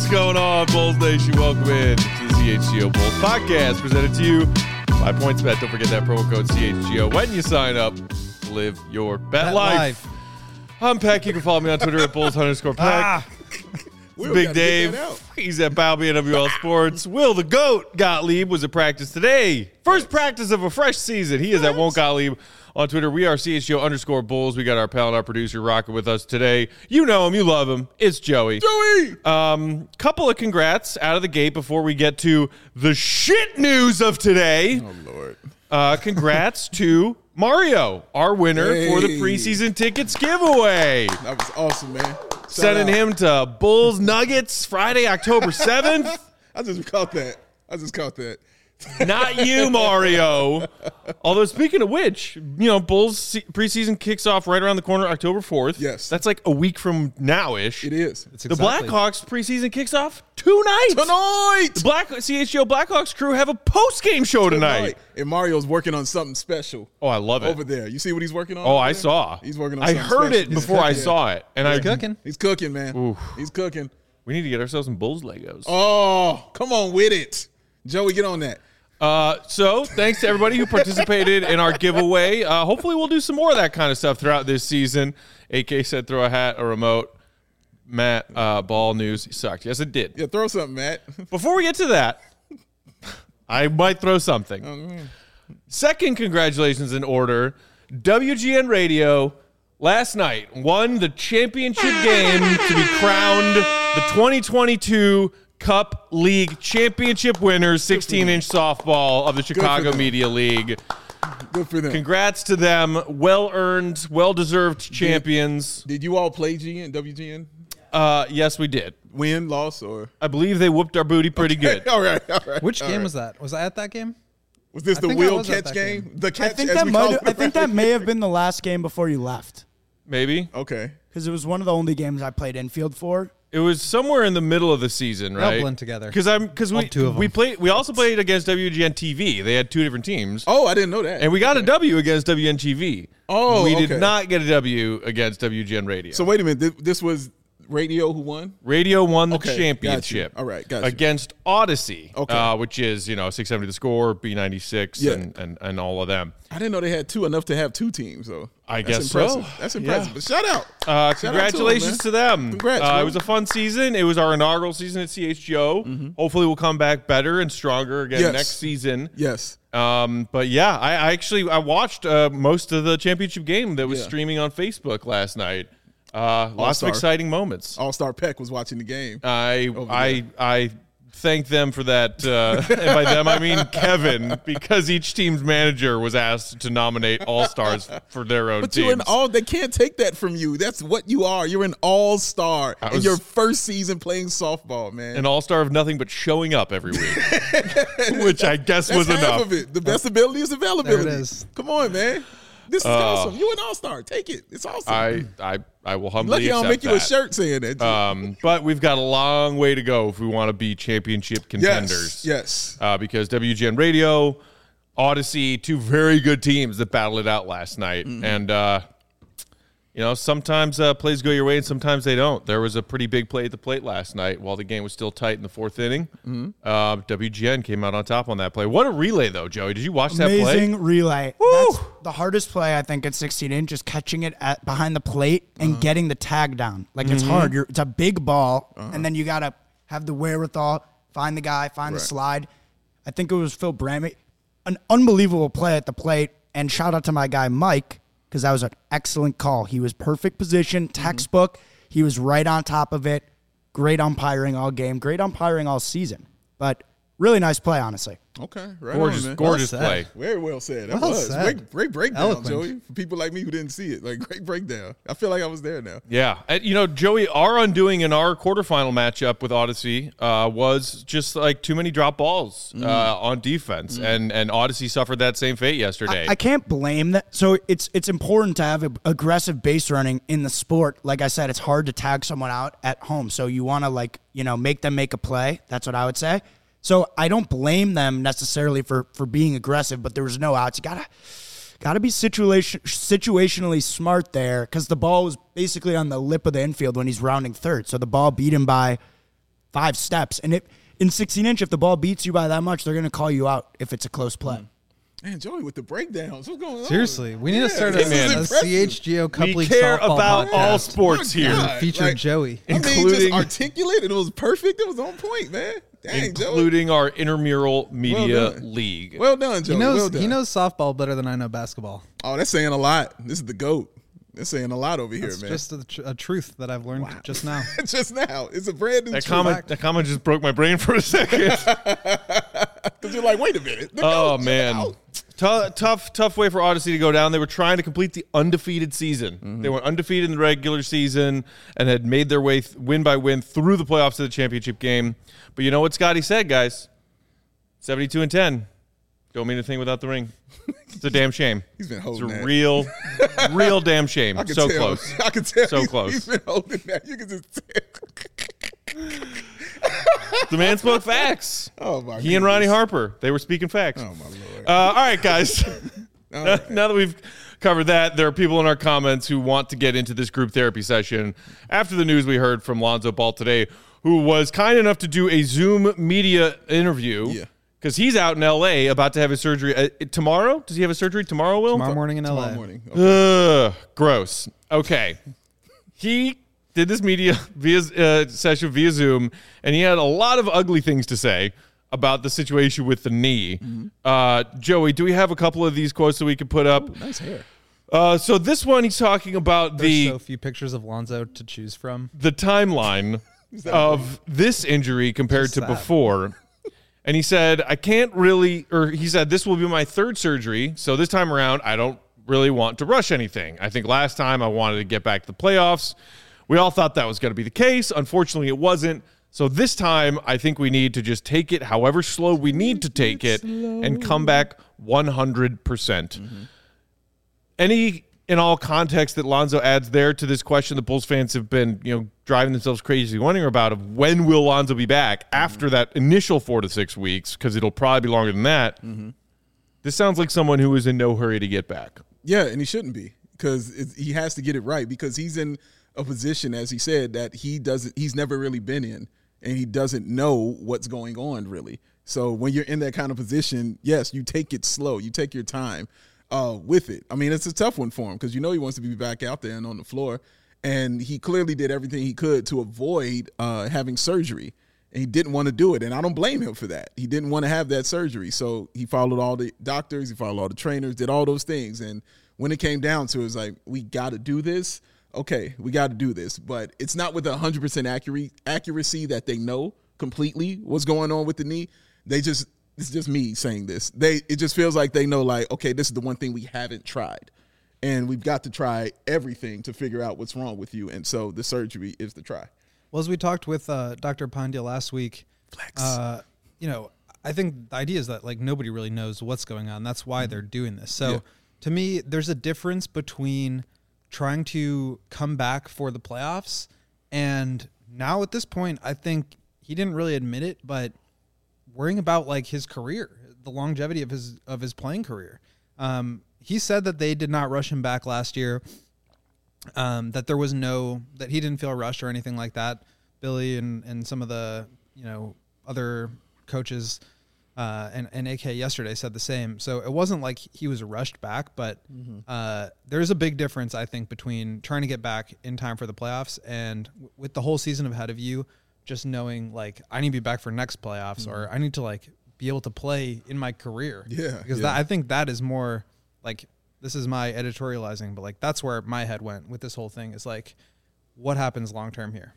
What's going on, Bulls Nation? Welcome in to the CHGO Bulls podcast, presented to you by PointsBet. Don't forget that promo code CHGO when you sign up. Live your bet life. I'm Peck. You can follow me on Twitter at Bulls_Peck. Big Dave. He's at Balby and WL Sports. Will the GOAT Gottlieb was at practice today. First practice of a fresh season. He is at Won't Gottlieb on Twitter. We are CHGO_Bulls. We got our pal and our producer rocking with us today. You know him. You love him. It's Joey. Couple of congrats out of the gate before we get to the shit news of today. Oh, Lord. Congrats to Mario, our winner for the preseason tickets giveaway. That was awesome, man. Sending him to Bulls Nuggets Friday, October 7th. I just caught that. Not you, Mario. Although, speaking of which, Bulls preseason kicks off right around the corner, October 4th. Yes. That's like a week from now-ish. It is. The Blackhawks preseason kicks off tonight. The CHGO Blackhawks crew have a post-game show tonight. And Mario's working on something special. Oh, I love it. Over there. You see what he's working on? Oh, I saw. He's working on I something heard special. it before I saw it. And He's cooking. He's cooking, man. Oof. He's cooking. We need to get ourselves some Bulls Legos. Oh, come on with it. Joey, get on that. So thanks to everybody who participated in our giveaway. Hopefully we'll do some more of that kind of stuff throughout this season. AK said throw a hat, a remote. Matt, ball news sucked. Yes, it did. Yeah, throw something, Matt. Before we get to that, I might throw something. Second congratulations in order. WGN Radio last night won the championship game to be crowned the 2022 Cup League championship winners, 16-inch softball of the Chicago Media League. Good for them. Congrats to them. Well-earned, well-deserved champions. Did you all play WGN? Yes, we did. Win, loss, or? I believe they whooped our booty pretty good. All right. Which game was that? Was I at that game? Was this the Will catch game? The catch, I think that may have been the last game before you left. Maybe. Okay. Because it was one of the only games I played infield for. It was somewhere in the middle of the season, right? They'll blend together. Because we also played against WGN TV. They had two different teams. Oh, I didn't know that. And we got a W against WGN TV. Oh, we did not get a W against WGN Radio. So wait a minute. This was Radio who won? Radio won the championship. All right, gotcha. Against Odyssey, which is 670 The Score, B96, and all of them. I didn't know they had enough to have two teams, though. I guess impressive. so. That's impressive. Yeah. But shout out. Congratulations to them. Congrats. It was a fun season. It was our inaugural season at CHGO. Mm-hmm. Hopefully we'll come back better and stronger again next season. Yes. But yeah, I watched most of the championship game that was streaming on Facebook last night. Lots of exciting moments. All-Star Peck was watching the game. I thank them for that. And by them, I mean Kevin, because each team's manager was asked to nominate all-stars for their own teams. But they can't take that from you. That's what you are. You're an all-star in your first season playing softball, man. An all-star of nothing but showing up every week, which I guess was half enough. Of it. The best ability is availability. There it is. Come on, man. This is awesome. You're an all-star. Take it. It's awesome. I will humbly accept accept I'll make that. you a shirt saying that. But we've got a long way to go if we want to be championship contenders. Yes. Because WGN Radio, Odyssey, two very good teams that battled it out last night. Mm-hmm. And, sometimes plays go your way and sometimes they don't. There was a pretty big play at the plate last night while the game was still tight in the fourth inning. Mm-hmm. WGN came out on top on that play. What a relay, though, Joey. Did you watch that play? Amazing relay. Woo! That's the hardest play, I think, at 16 just catching it behind the plate and getting the tag down. Like, it's hard. It's a big ball, and then you got to have the wherewithal, find the guy, find the slide. I think it was Phil Brammy. An unbelievable play at the plate, and shout out to my guy, Mike, because that was an excellent call. He was perfect position, textbook. He was right on top of it. Great umpiring all game. Great umpiring all season. But really nice play, honestly. Okay, right. Gorgeous play. Very well said. That Well was said. great breakdown, Eloquent. Joey. For people like me who didn't see it, great breakdown. I feel like I was there now. Yeah. And, Joey, our undoing in our quarterfinal matchup with Odyssey was just like too many drop balls on defense. And Odyssey suffered that same fate yesterday. I can't blame that. So it's important to have aggressive base running in the sport. Like I said, it's hard to tag someone out at home. So you want to make them make a play. That's what I would say. So I don't blame them necessarily for being aggressive, but there was no outs. You gotta be situationally smart there because the ball was basically on the lip of the infield when he's rounding third. So the ball beat him by 5 steps. And in 16-inch, if the ball beats you by that much, they're going to call you out if it's a close play. Man, Joey with the breakdowns. What's going on? Seriously, we need to start a impressive. CHGO Cup We League care softball about podcast. all sports My here. God. Feature Like, Joey. I mean, Including- just articulate, and it was perfect. It was on point, man. Dang, Joey. Including our intramural media Well done. league. Well done, Joey. well done. He knows softball better than I know basketball. Oh, that's saying a lot. This is the GOAT. That's saying a lot over here, It's man. just a truth that I've learned just now. Just now. It's a brand new that truth. comment just broke my brain for a second. Because you're like, wait a minute. The Oh GOAT, check it man, out. tough way for Odyssey to go down. They were trying to complete the undefeated season. They were undefeated in the regular season and had made their way win by win through the playoffs to the championship game. But you know what Scotty said, guys? 72-10. Don't mean a thing without the ring. It's a damn shame. He's been It's holding a that. real damn shame. I can So tell. close. I can tell. So he's, close. He's been holding that. You can just tell. The man spoke facts. Oh, my He and Ronnie goodness. Harper, they were speaking facts. Oh, my Lord. All right, guys. All right. Now that we've covered that, there are people in our comments who want to get into this group therapy session after the news we heard from Lonzo Ball today, who was kind enough to do a Zoom media interview. Yeah. Because he's out in L.A. about to have his surgery tomorrow. Does he have a surgery tomorrow, Will? Tomorrow morning in LA. Tomorrow morning. Okay. Ugh, gross. Okay. He did this media session via Zoom, and he had a lot of ugly things to say about the situation with the knee. Joey, do we have a couple of these quotes that we could put up? Nice hair. So this one, he's talking about There's so few pictures of Lonzo to choose from. the timeline of this injury compared to sad. before. And he said, he said, this will be my 3rd surgery. So this time around, I don't really want to rush anything. I think last time I wanted to get back to the playoffs. We all thought that was going to be the case. Unfortunately, it wasn't. So this time, I think we need to just take it however slow we need to take it and come back 100%. Any in all context that Lonzo adds there to this question that Bulls fans have been, driving themselves crazy wondering about of when will Lonzo be back after that initial 4 to 6 weeks, because it'll probably be longer than that. This sounds like someone who is in no hurry to get back. Yeah, and he shouldn't be, because he has to get it right, because he's in a position, as he said, that he's never really been in, and he doesn't know what's going on really. So when you're in that kind of position, yes, you take it slow, you take your time with it. I mean, it's a tough one for him, because he wants to be back out there and on the floor, and he clearly did everything he could to avoid having surgery. And he didn't want to do it, and I don't blame him for that. He didn't want to have that surgery, so he followed all the doctors, he followed all the trainers, did all those things. And when it came down to it, it was like, we got to do this. Okay, we got to do this. But it's not with 100% accuracy that they know completely what's going on with the knee. It's just me saying this. It just feels like they know, like, okay, this is the one thing we haven't tried. And we've got to try everything to figure out what's wrong with you. And so the surgery is the try. Well, as we talked with Dr. Pandya last week, I think the idea is that nobody really knows what's going on. That's why they're doing this. So to me, there's a difference between trying to come back for the playoffs and now at this point, I think he didn't really admit it, but worrying about his career, the longevity of his playing career. He said that they did not rush him back last year. That there was that he didn't feel rushed or anything like that. Billy and some of the other coaches and AK yesterday said the same. So it wasn't like he was rushed back, but there's a big difference, I think, between trying to get back in time for the playoffs and with the whole season ahead of you, just knowing I need to be back for next playoffs or I need to be able to play in my career. Yeah, because I think that is more this is my editorializing, but that's where my head went with this whole thing is what happens long term here.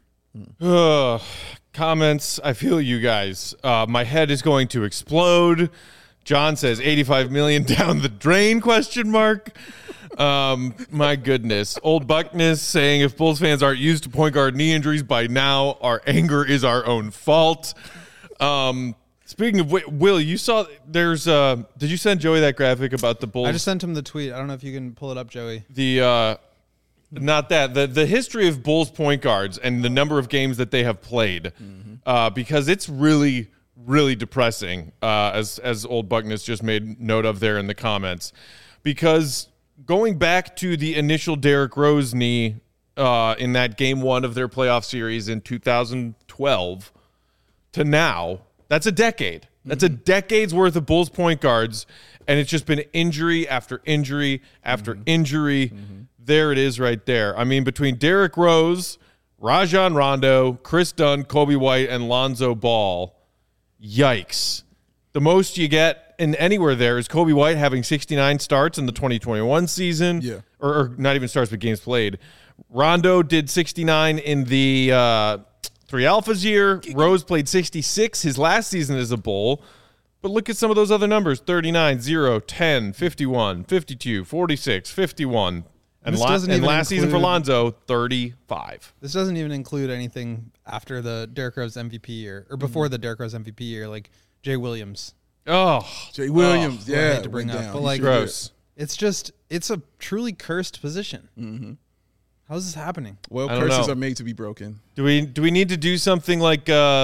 Comments. I feel you guys. My head is going to explode. John says 85 million down the drain, ? My goodness. Old Buckness saying if Bulls fans aren't used to point guard knee injuries by now, our anger is our own fault. Speaking of Will, you saw there's did you send Joey that graphic about the Bulls? I just sent him the tweet. I don't know if you can pull it up, Joey. Not that. The history of Bulls point guards and the number of games that they have played, because it's really, really depressing, as Old Buckness just made note of there in the comments. Because going back to the initial Derrick Rose knee in that game 1 of their playoff series in 2012, to now, that's a decade. That's a decade's worth of Bulls point guards, and it's just been injury after injury after injury. There it is right there. I mean, between Derrick Rose, Rajon Rondo, Chris Dunn, Kobe White, and Lonzo Ball, yikes. The most you get in anywhere there is Kobe White having 69 starts in the 2021 season. Yeah. Or not even starts, but games played. Rondo did 69 in the 3 Alphas year. Rose played 66 his last season as a Bull. But look at some of those other numbers. 39, 0, 10, 51, 52, 46, 51. And last season for Lonzo, 35. This doesn't even include anything after the Derrick Rose MVP year, or before the Derrick Rose MVP year, like Jay Williams. Oh. Jay Williams, I hate to bring up. But like, gross. It's a truly cursed position. How is this happening? Well, curses are made to be broken. Do we need to do something like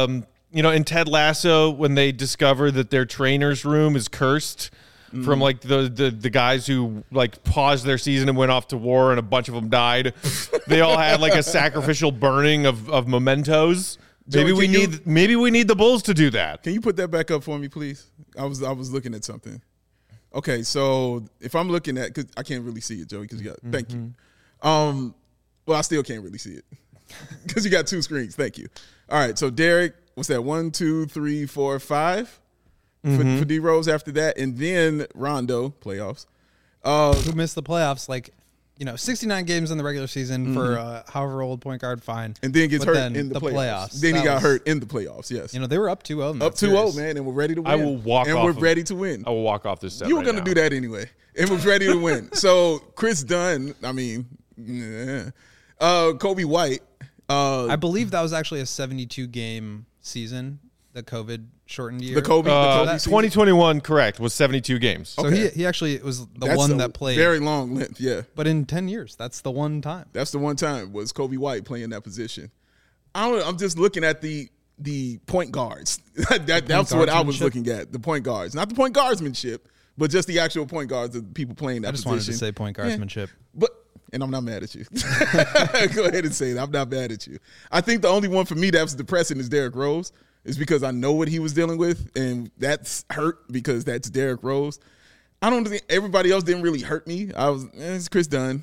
in Ted Lasso when they discover that their trainer's room is cursed from like the guys who like paused their season and went off to war and a bunch of them died. They all had like a sacrificial burning of mementos. Maybe we need the Bulls to do that. Can you put that back up for me, please? I was looking at something. Okay, so if I'm looking at, because I can't really see it, Joey, because you got, thank you. Well, I still can't really see it because you got 2 screens. Thank you. All right, so Derrick, what's that? 1, 2, 3, 4, 5 for D Rose after that, and then Rondo playoffs. Who missed the playoffs? Like, 69 games in the regular season for however old point guard, fine. And then gets hurt in the playoffs. Then he got hurt in the playoffs. Yes. They were up 2-0. Up 2-0, man, and we're ready to win. I will walk off. And we're ready to win. I will walk off this set. You were going to do that anyway, and we're ready to win. So Chris Dunn, I mean. Yeah. Kobe White. I believe that was actually a 72-game season, the COVID shortened year. The Kobe 2021, correct, was 72 games. So he actually was the one that played. Very long length, yeah. But in 10 years, that's the one time. That's the one time was Kobe White playing that position. I don't know. I'm just looking at the point guards. That's what I was looking at, the point guards. Not the point guardsmanship, but just the actual point guards of the people playing that position. I just wanted to say point guardsmanship. Yeah. And I'm not mad at you. Go ahead and say that. I'm not mad at you. I think the only one for me that was depressing is Derrick Rose. Is because I know what he was dealing with, and that's hurt because that's Derrick Rose. I don't think everybody else didn't really hurt me. It's Chris Dunn.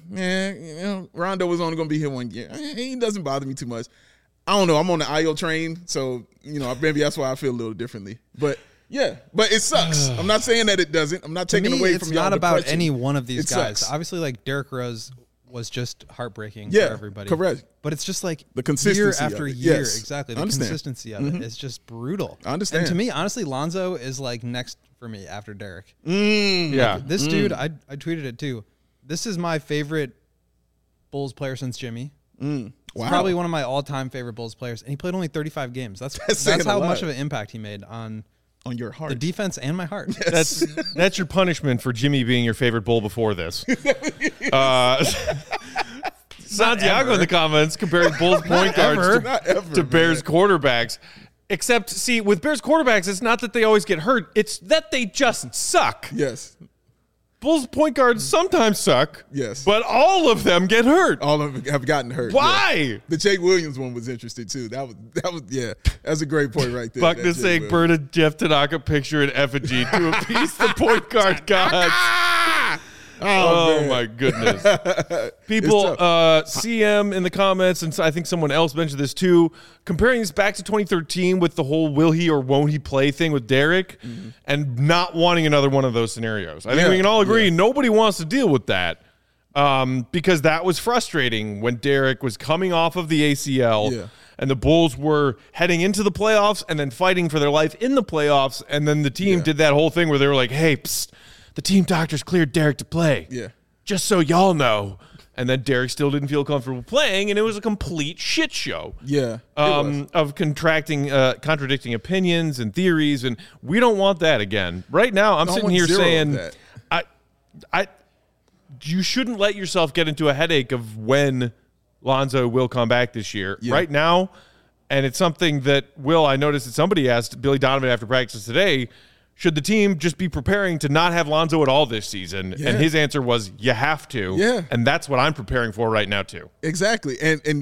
Rondo was only going to be here 1 year. He doesn't bother me too much. I don't know. I'm on the IO train, so maybe that's why I feel a little differently. But yeah, but it sucks. I'm not saying that it doesn't. I'm not taking away from y'all. It's not about any one of these guys. Sucks. Obviously, like Derrick Rose was just heartbreaking for everybody. Correct. But it's just like the consistency year after year. Yes. Exactly. The consistency of it is just brutal. I understand. And to me, honestly, Lonzo is like next for me after Derrick. Yeah. Like, this dude, I tweeted it too. This is my favorite Bulls player since Jimmy. Wow. He's probably one of my all-time favorite Bulls players. And he played only 35 games. That's how much of an impact he made on your heart, the defense, and my heart. Yes. That's your punishment for Jimmy being your favorite Bull before this. Santiago in the comments comparing Bulls point guards to Bears quarterbacks. Except, see, with Bears quarterbacks, it's not that they always get hurt. It's that they just suck. Yes. Bulls point guards sometimes suck. Yes. But all of them get hurt. All of them have gotten hurt. Why? Yeah. The Jake Williams one was interesting, too. That was yeah. That's a great point right there. Buckner saying burn a Jeff Tanaka picture in effigy to appease the point guard gods. Oh my goodness. People, CM in the comments, and I think someone else mentioned this too, comparing this back to 2013 with the whole will he or won't he play thing with Derrick and not wanting another one of those scenarios. I think we can all agree nobody wants to deal with that because that was frustrating when Derrick was coming off of the ACL and the Bulls were heading into the playoffs and then fighting for their life in the playoffs, and then the team did that whole thing where they were like, hey, psst, the team doctors cleared Derrick to play. Yeah. Just so y'all know. And then Derrick still didn't feel comfortable playing, and it was a complete shit show. Yeah. Of contradicting opinions and theories, and we don't want that again. Right now, I'm sitting here saying, you shouldn't let yourself get into a headache of when Lonzo will come back this year. Yeah. Right now, and it's something that I noticed that somebody asked Billy Donovan after practice today, should the team just be preparing to not have Lonzo at all this season? Yeah. And his answer was, you have to. Yeah. And that's what I'm preparing for right now, too. Exactly. And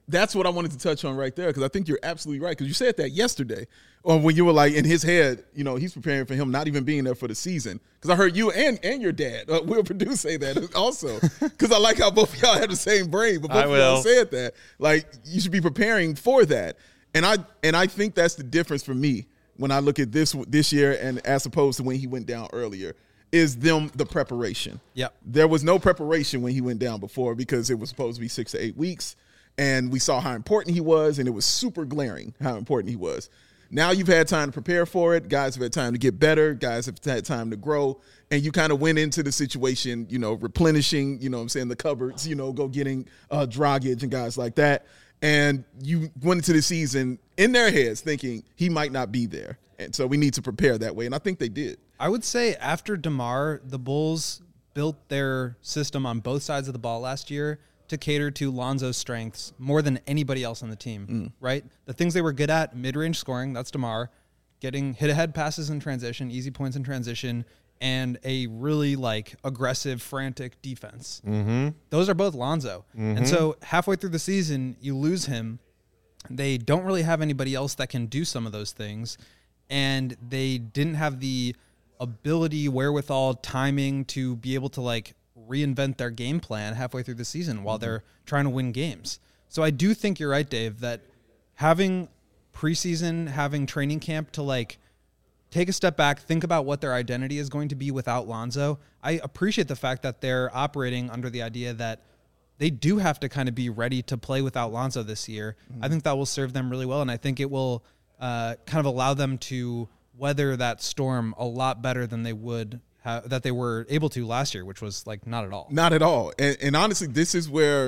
that's what I wanted to touch on right there, because I think you're absolutely right, because you said that yesterday, or when you were like, in his head, he's preparing for him not even being there for the season. Because I heard you and your dad, Will Perdue, say that also, because I like how both of y'all have the same brain, but both of y'all said that. Like, you should be preparing for that. And I think that's the difference for me when I look at this year and as opposed to when he went down earlier, is the preparation. Yep. There was no preparation when he went down before, because it was supposed to be 6 to 8 weeks. And we saw how important he was, and it was super glaring how important he was. Now you've had time to prepare for it. Guys have had time to get better. Guys have had time to grow. And you kind of went into the situation, replenishing, the cupboards, go getting Dragic and guys like that. And you went into the season in their heads thinking he might not be there. And so we need to prepare that way. And I think they did. I would say after DeMar, the Bulls built their system on both sides of the ball last year to cater to Lonzo's strengths more than anybody else on the team, right? The things they were good at, mid-range scoring, that's DeMar, getting hit-ahead passes in transition, easy points in transition, and a really aggressive, frantic defense. Mm-hmm. Those are both Lonzo. Mm-hmm. And so halfway through the season, you lose him. They don't really have anybody else that can do some of those things, and they didn't have the ability, wherewithal, timing to be able to reinvent their game plan halfway through the season while they're trying to win games. So I do think you're right, Dave, that having preseason, having training camp to take a step back, think about what their identity is going to be without Lonzo. I appreciate the fact that they're operating under the idea that they do have to kind of be ready to play without Lonzo this year. I think that will serve them really well, and I think it will kind of allow them to weather that storm a lot better than they would that they were able to last year, which was not at all. Not at all. And honestly, this is where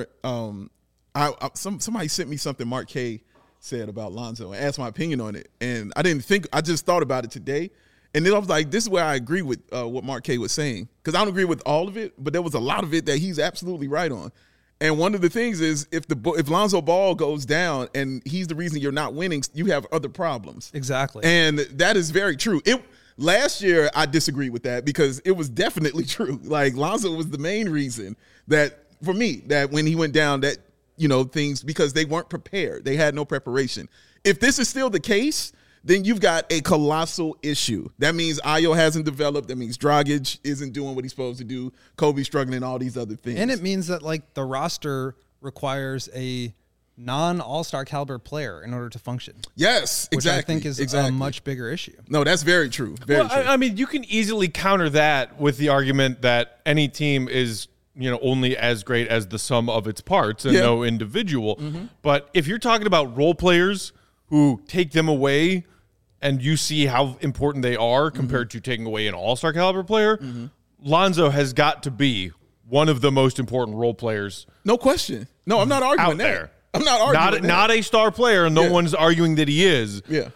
somebody sent me something Mark K said about Lonzo and asked my opinion on it. And I just thought about it today. And then I was like, this is where I agree with what Mark K was saying. Because I don't agree with all of it, but there was a lot of it that he's absolutely right on. And one of the things is if Lonzo Ball goes down and he's the reason you're not winning, you have other problems. Exactly. And that is very true. Last year, I disagree with that because it was definitely true. Lonzo was the main reason that, for me, that when he went down, that, things, because they weren't prepared. They had no preparation. If this is still the case, then you've got a colossal issue. That means Ayo hasn't developed. That means Dragic isn't doing what he's supposed to do. Kobe's struggling, all these other things. And it means that, the roster requires a non-all-star caliber player in order to function. Yes, exactly. Which I think is a much bigger issue. No, that's very true. Very true. I mean, you can easily counter that with the argument that any team is, only as great as the sum of its parts and no individual. Mm-hmm. But if you're talking about role players who take them away and you see how important they are compared to taking away an all-star caliber player, Lonzo has got to be one of the most important role players. No question. No, I'm not arguing that. There. I'm not arguing that. Not a star player, and no one's arguing that he is. Yeah.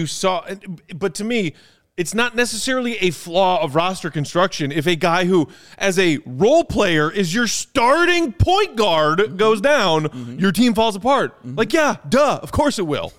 But to me, it's not necessarily a flaw of roster construction if a guy who, as a role player, is your starting point guard goes down, your team falls apart. Of course it will.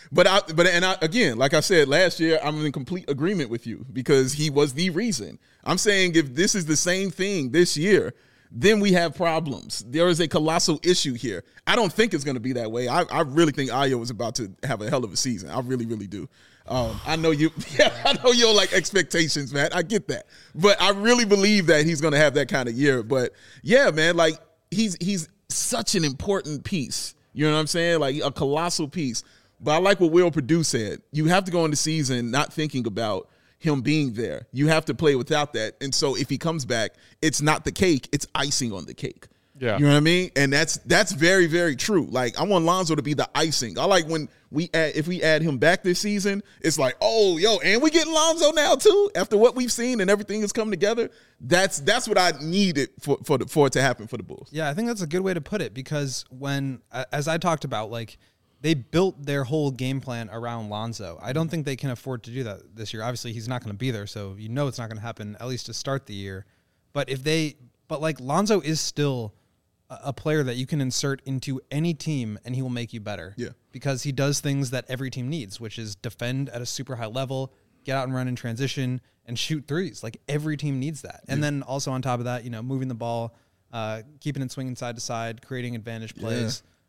Again, like I said, last year, I'm in complete agreement with you because he was the reason. I'm saying if this is the same thing this year, then we have problems. There is a colossal issue here. I don't think it's going to be that way. I really think Ayo is about to have a hell of a season. I really, really do. I know you. Yeah, I know you don't like expectations, man. I get that, but I really believe that he's going to have that kind of year. But yeah, man, he's such an important piece. You know what I'm saying? A colossal piece. But I like what Will Perdue said. You have to go into season not thinking about him being there. You have to play without that. And so if he comes back, it's not the cake, it's icing on the cake. Yeah. You know what I mean? And that's very, very true. I want Lonzo to be the icing. I like when if we add him back this season, it's and we get Lonzo now too, after what we've seen and everything has come together. That's what I needed for it to happen for the Bulls. Yeah, I think that's a good way to put it because when, as I talked about, they built their whole game plan around Lonzo. I don't think they can afford to do that this year. Obviously, he's not going to be there, so it's not going to happen, at least to start the year. But Lonzo is still a player that you can insert into any team and he will make you better. Yeah. Because he does things that every team needs, which is defend at a super high level, get out and run in transition, and shoot threes. Every team needs that. And then also on top of that, moving the ball, keeping it swinging side to side, creating advantage plays.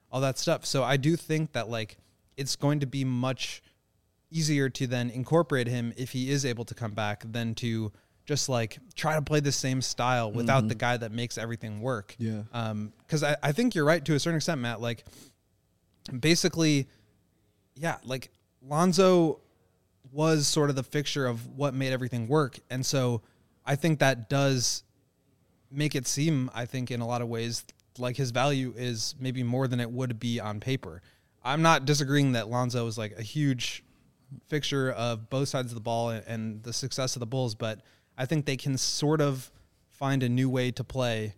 all that stuff. So I do think that like it's going to be much easier to then incorporate him if he is able to come back than to just like try to play the same style without the guy that makes everything work. Yeah. Because I think you're right to a certain extent, Matt. Like basically, yeah, like Lonzo was sort of the fixture of what made everything work. And so I think that does make it seem, I think in a lot of ways, like his value is maybe more than it would be on paper. I'm not disagreeing that Lonzo is like a huge fixture of both sides of the ball and the success of the Bulls, but I think they can sort of find a new way to play.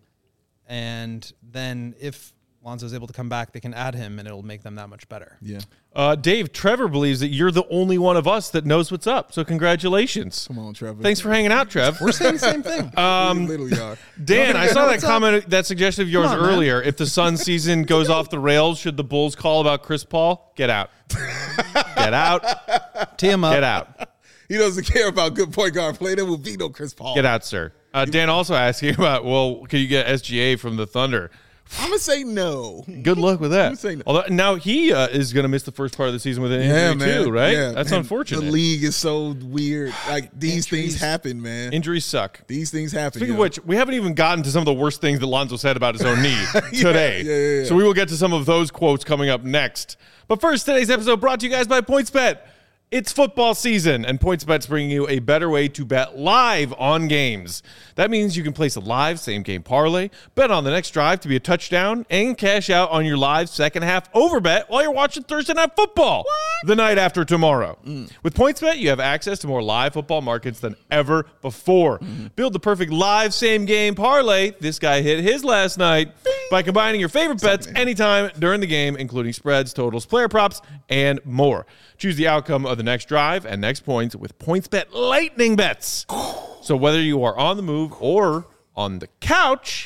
And then if Lonzo's able to come back, they can add him and it'll make them that much better. Yeah. Dave, Trevor believes that you're the only one of us that knows what's up. So congratulations. Come on, Trevor. Thanks for hanging out, Trev. We're saying the same thing. Literally are. Dan, I saw that What's up? comment, that suggestion of yours Come on, man. earlier. If the Suns season goes off the rails, should the Bulls call about Chris Paul? Get out. Get out. Tee him up. Get out. He doesn't care about good point guard play. There will be no Chris Paul. Get out, sir. Dan also asking about, well, can you get SGA from the Thunder? I'm going to say no. Good luck with that. I'm saying no. Although now he is going to miss the first part of the season with an injury too, right? Yeah, That's man. unfortunate. The league is so weird. Like, these things happen, man. Injuries suck. These things happen. Speaking of which, we haven't even gotten to some of the worst things that Lonzo said about his own knee today. Yeah. So we will get to some of those quotes coming up next. But first, today's episode brought to you guys by PointsBet. It's football season, and PointsBet's bringing you a better way to bet live on games. That means you can place a live same-game parlay, bet on the next drive to be a touchdown, and cash out on your live second-half overbet while you're watching Thursday Night Football the night after tomorrow. With PointsBet, you have access to more live football markets than ever before. Build the perfect live same-game parlay. This guy hit his last night by combining your favorite bets anytime during the game, including spreads, totals, player props, and more. Choose the outcome of the next drive and next points with PointsBet Lightning Bets. So whether you are on the move or on the couch,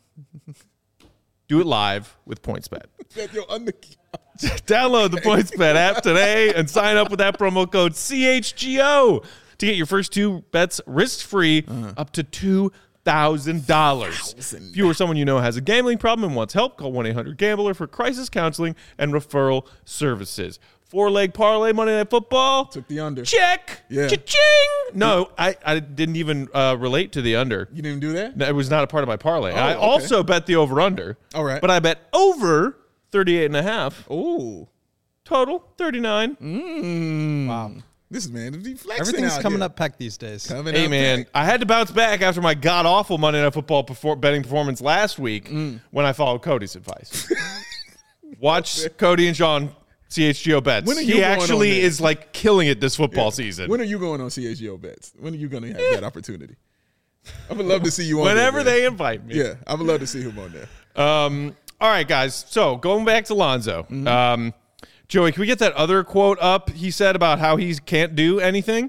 do it live with PointsBet. Download the PointsBet app today and sign up with that promo code CHGO to get your first two bets risk-free up to $2,000. If you or someone you know has a gambling problem and wants help, call 1-800-GAMBLER for crisis counseling and referral services. 4-leg parlay, Monday Night Football. Took the under. Check. Yeah. Cha-ching. No, I didn't even relate to the under. You didn't do that? No, it was not a part of my parlay. I okay. also bet the over-under. All right. But I bet over 38.5. Oh. Total, 39. Wow. This man is flexing Everything's out coming here. up Peck these days. Coming Hey, up man, back. I had to bounce back after my god-awful Monday Night Football betting performance last week when I followed Cody's advice. Watch Cody and Sean CHGO bets. When are you He going on actually there? is like killing it this football season. When are you going on CHGO bets? When are you going to have that opportunity? I would love to see you on Whenever there. they invite me. Yeah, I would love to see him on there. All right, guys. So going back to Lonzo. Joey, can we get that other quote up he said about how he can't do anything?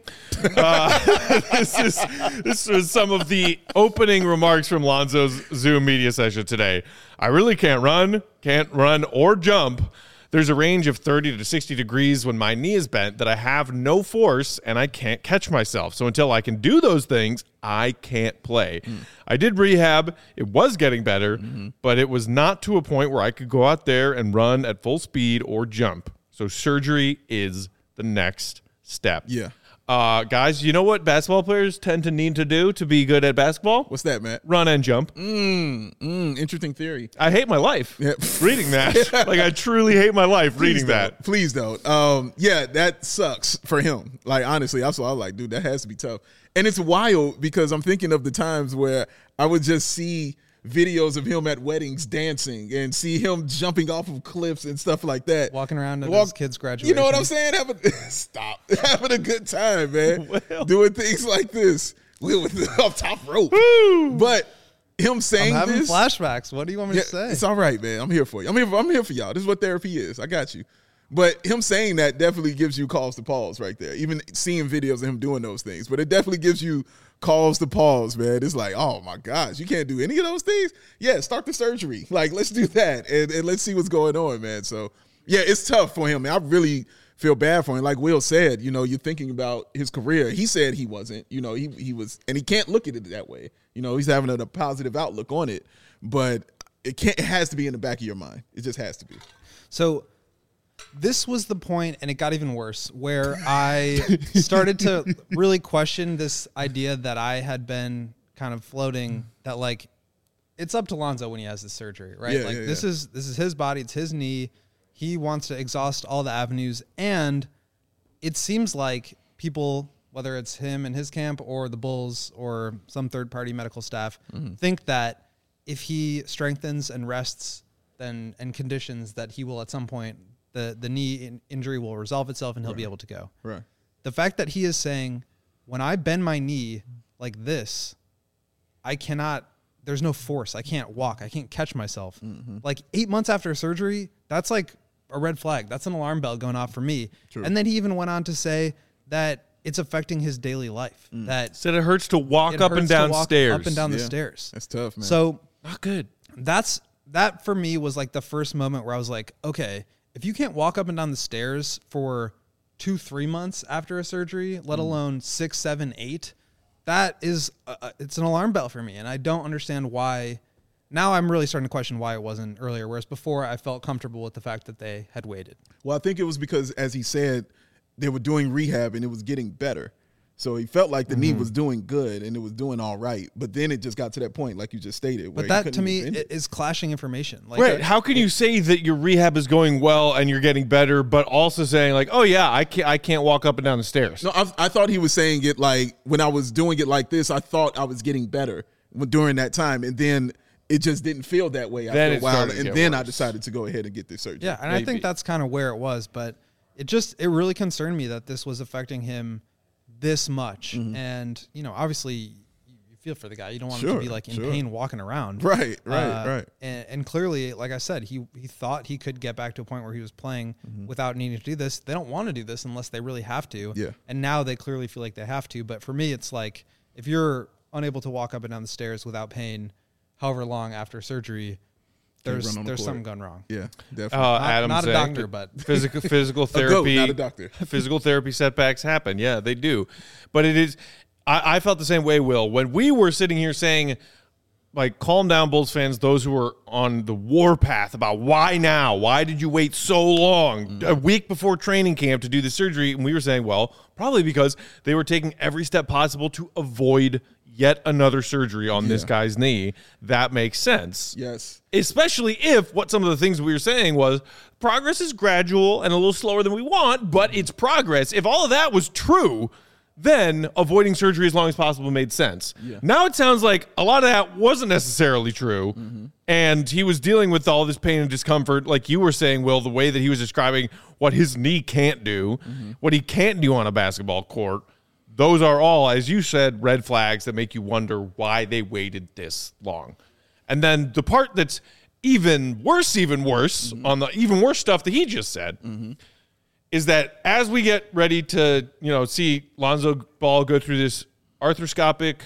This was some of the opening remarks from Lonzo's Zoom media session today. I really can't run or jump. There's a range of 30 to 60 degrees when my knee is bent that I have no force and I can't catch myself. So until I can do those things, I can't play. I did rehab. It was getting better, but it was not to a point where I could go out there and run at full speed or jump. So surgery is the next step. Yeah. Guys, you know what basketball players tend to need to do to be good at basketball? What's that, Matt? Run and jump. Interesting theory. I hate my life Yeah. reading that. Like, I truly hate my life reading that. Please don't. Yeah, that sucks for him. Like, honestly, I was like, dude, that has to be tough. And it's wild because I'm thinking of the times where I would just see videos of him at weddings dancing and see him jumping off of cliffs and stuff like that. Walking around at his kid's graduation. You know what I'm saying? Stop. Having a good time, man. Doing things like this. Off top rope. Woo! But him saying I'm having this. flashbacks. What do you want me to say? It's all right, man. I'm here for you. I'm here for y'all. This is what therapy is. I got you. But him saying that definitely gives you cause to pause right there. Even seeing videos of him doing those things. But it definitely gives you cause to pause, man. It's like, oh my gosh, you can't do any of those things? Yeah, start the surgery. Like, let's do that. And let's see what's going on, man. So, yeah, it's tough for him. I really feel bad for him. Like Will said, you know, you're thinking about his career. He said he wasn't. You know, he was, and he can't look at it that way. You know, he's having a positive outlook on it. But it has to be in the back of your mind. It just has to be. So this was the point, and it got even worse, where I started to really question this idea that I had been kind of floating, that like it's up to Lonzo when he has the surgery, right? Yeah, This is his body, it's his knee. He wants to exhaust all the avenues, and it seems like people, whether it's him and his camp or the Bulls or some third-party medical staff, think that if he strengthens and rests and conditions, that he will at some point, the knee injury will resolve itself and he'll be able to go. Right. The fact that he is saying, when I bend my knee like this, I cannot, there's no force. I can't walk. I can't catch myself. Like 8 months after surgery, that's like a red flag. That's an alarm bell going off for me. True. And then he even went on to say that it's affecting his daily life. That Said it hurts to walk up and down stairs. Up and down the stairs. That's tough, man. So Not good. that for me was like the first moment where I was like, okay, if you can't walk up and down the stairs for 2-3 months after a surgery, let alone 6, 7, 8, that is it's an alarm bell for me, and I don't understand why. Now I'm really starting to question why it wasn't earlier, whereas before I felt comfortable with the fact that they had waited. Well, I think it was because, as he said, they were doing rehab and it was getting better. So he felt like the knee was doing good and it was doing all right. But then it just got to that point, like you just stated. But that, to me, is clashing information. Like, Right. How can you say that your rehab is going well and you're getting better, but also saying like, oh yeah, I can't walk up and down the stairs? No, I thought he was saying it like when I was doing it like this, I thought I was getting better during that time. And then it just didn't feel that way after a while. And then I decided to go ahead and get this surgery. Yeah, and I think that's kind of where it was. But it really concerned me that this was affecting him this much. And, you know, obviously you feel for the guy. You don't want him to be like in pain walking around. Right. And clearly, like I said, he thought he could get back to a point where he was playing without needing to do this. They don't want to do this unless they really have to. Yeah. And now they clearly feel like they have to. But for me, it's like, if you're unable to walk up and down the stairs without pain, however long after surgery, there's something going wrong. Yeah, definitely. Adam not a doctor, but physical therapy. Not a doctor. Physical therapy setbacks happen. Yeah, they do. But it is. I felt the same way, Will, when we were sitting here saying, like, calm down, Bulls fans. Those who were on the warpath about why now? Why did you wait so long, a week before training camp, to do the surgery? And we were saying, well, probably because they were taking every step possible to avoid yet another surgery on this guy's knee. That makes sense. Yes. Especially if what some of the things we were saying was progress is gradual and a little slower than we want, but it's progress. If all of that was true, then avoiding surgery as long as possible made sense. Yeah. Now it sounds like a lot of that wasn't necessarily true, and he was dealing with all this pain and discomfort, like you were saying, Will, the way that he was describing what his knee can't do, what he can't do on a basketball court. Those are all, as you said, red flags that make you wonder why they waited this long. And then the part that's even worse on the even worse stuff that he just said is that as we get ready to, see Lonzo Ball go through this arthroscopic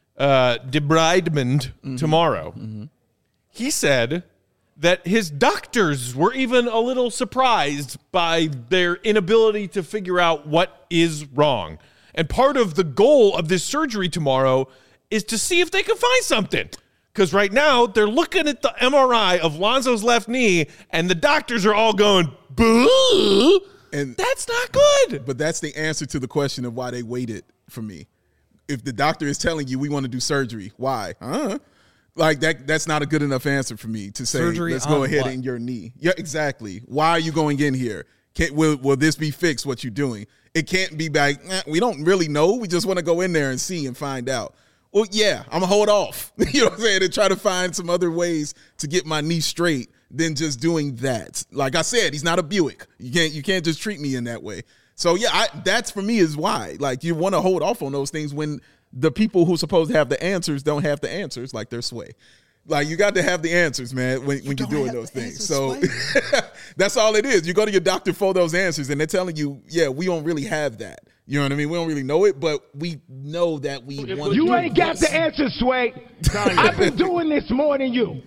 debridement tomorrow, he said that his doctors were even a little surprised by their inability to figure out what is wrong. And part of the goal of this surgery tomorrow is to see if they can find something. Because right now, they're looking at the MRI of Lonzo's left knee, and the doctors are all going, boo, and that's not good. But that's the answer to the question of why they waited for me. If the doctor is telling you we want to do surgery, why? Like that's not a good enough answer for me to say, surgery, let's go ahead in your knee. Yeah, exactly. Why are you going in here? Will this be fixed, what you're doing? It can't be back. We don't really know. We just want to go in there and see and find out. Well, yeah, I'm going to hold off, you know what I'm saying, and try to find some other ways to get my knee straight than just doing that. Like I said, he's not a Buick. You can't just treat me in that way. So, yeah, that's for me is why. Like, you want to hold off on those things when the people who's supposed to have the answers don't have the answers, like their Sway. Like, you got to have the answers, man, when you're doing those things. So that's all it is. You go to your doctor for those answers, and they're telling you, yeah, we don't really have that. You know what I mean? We don't really know it, but we know that we want to. You ain't got the answers, Sway. I've been doing this more than you.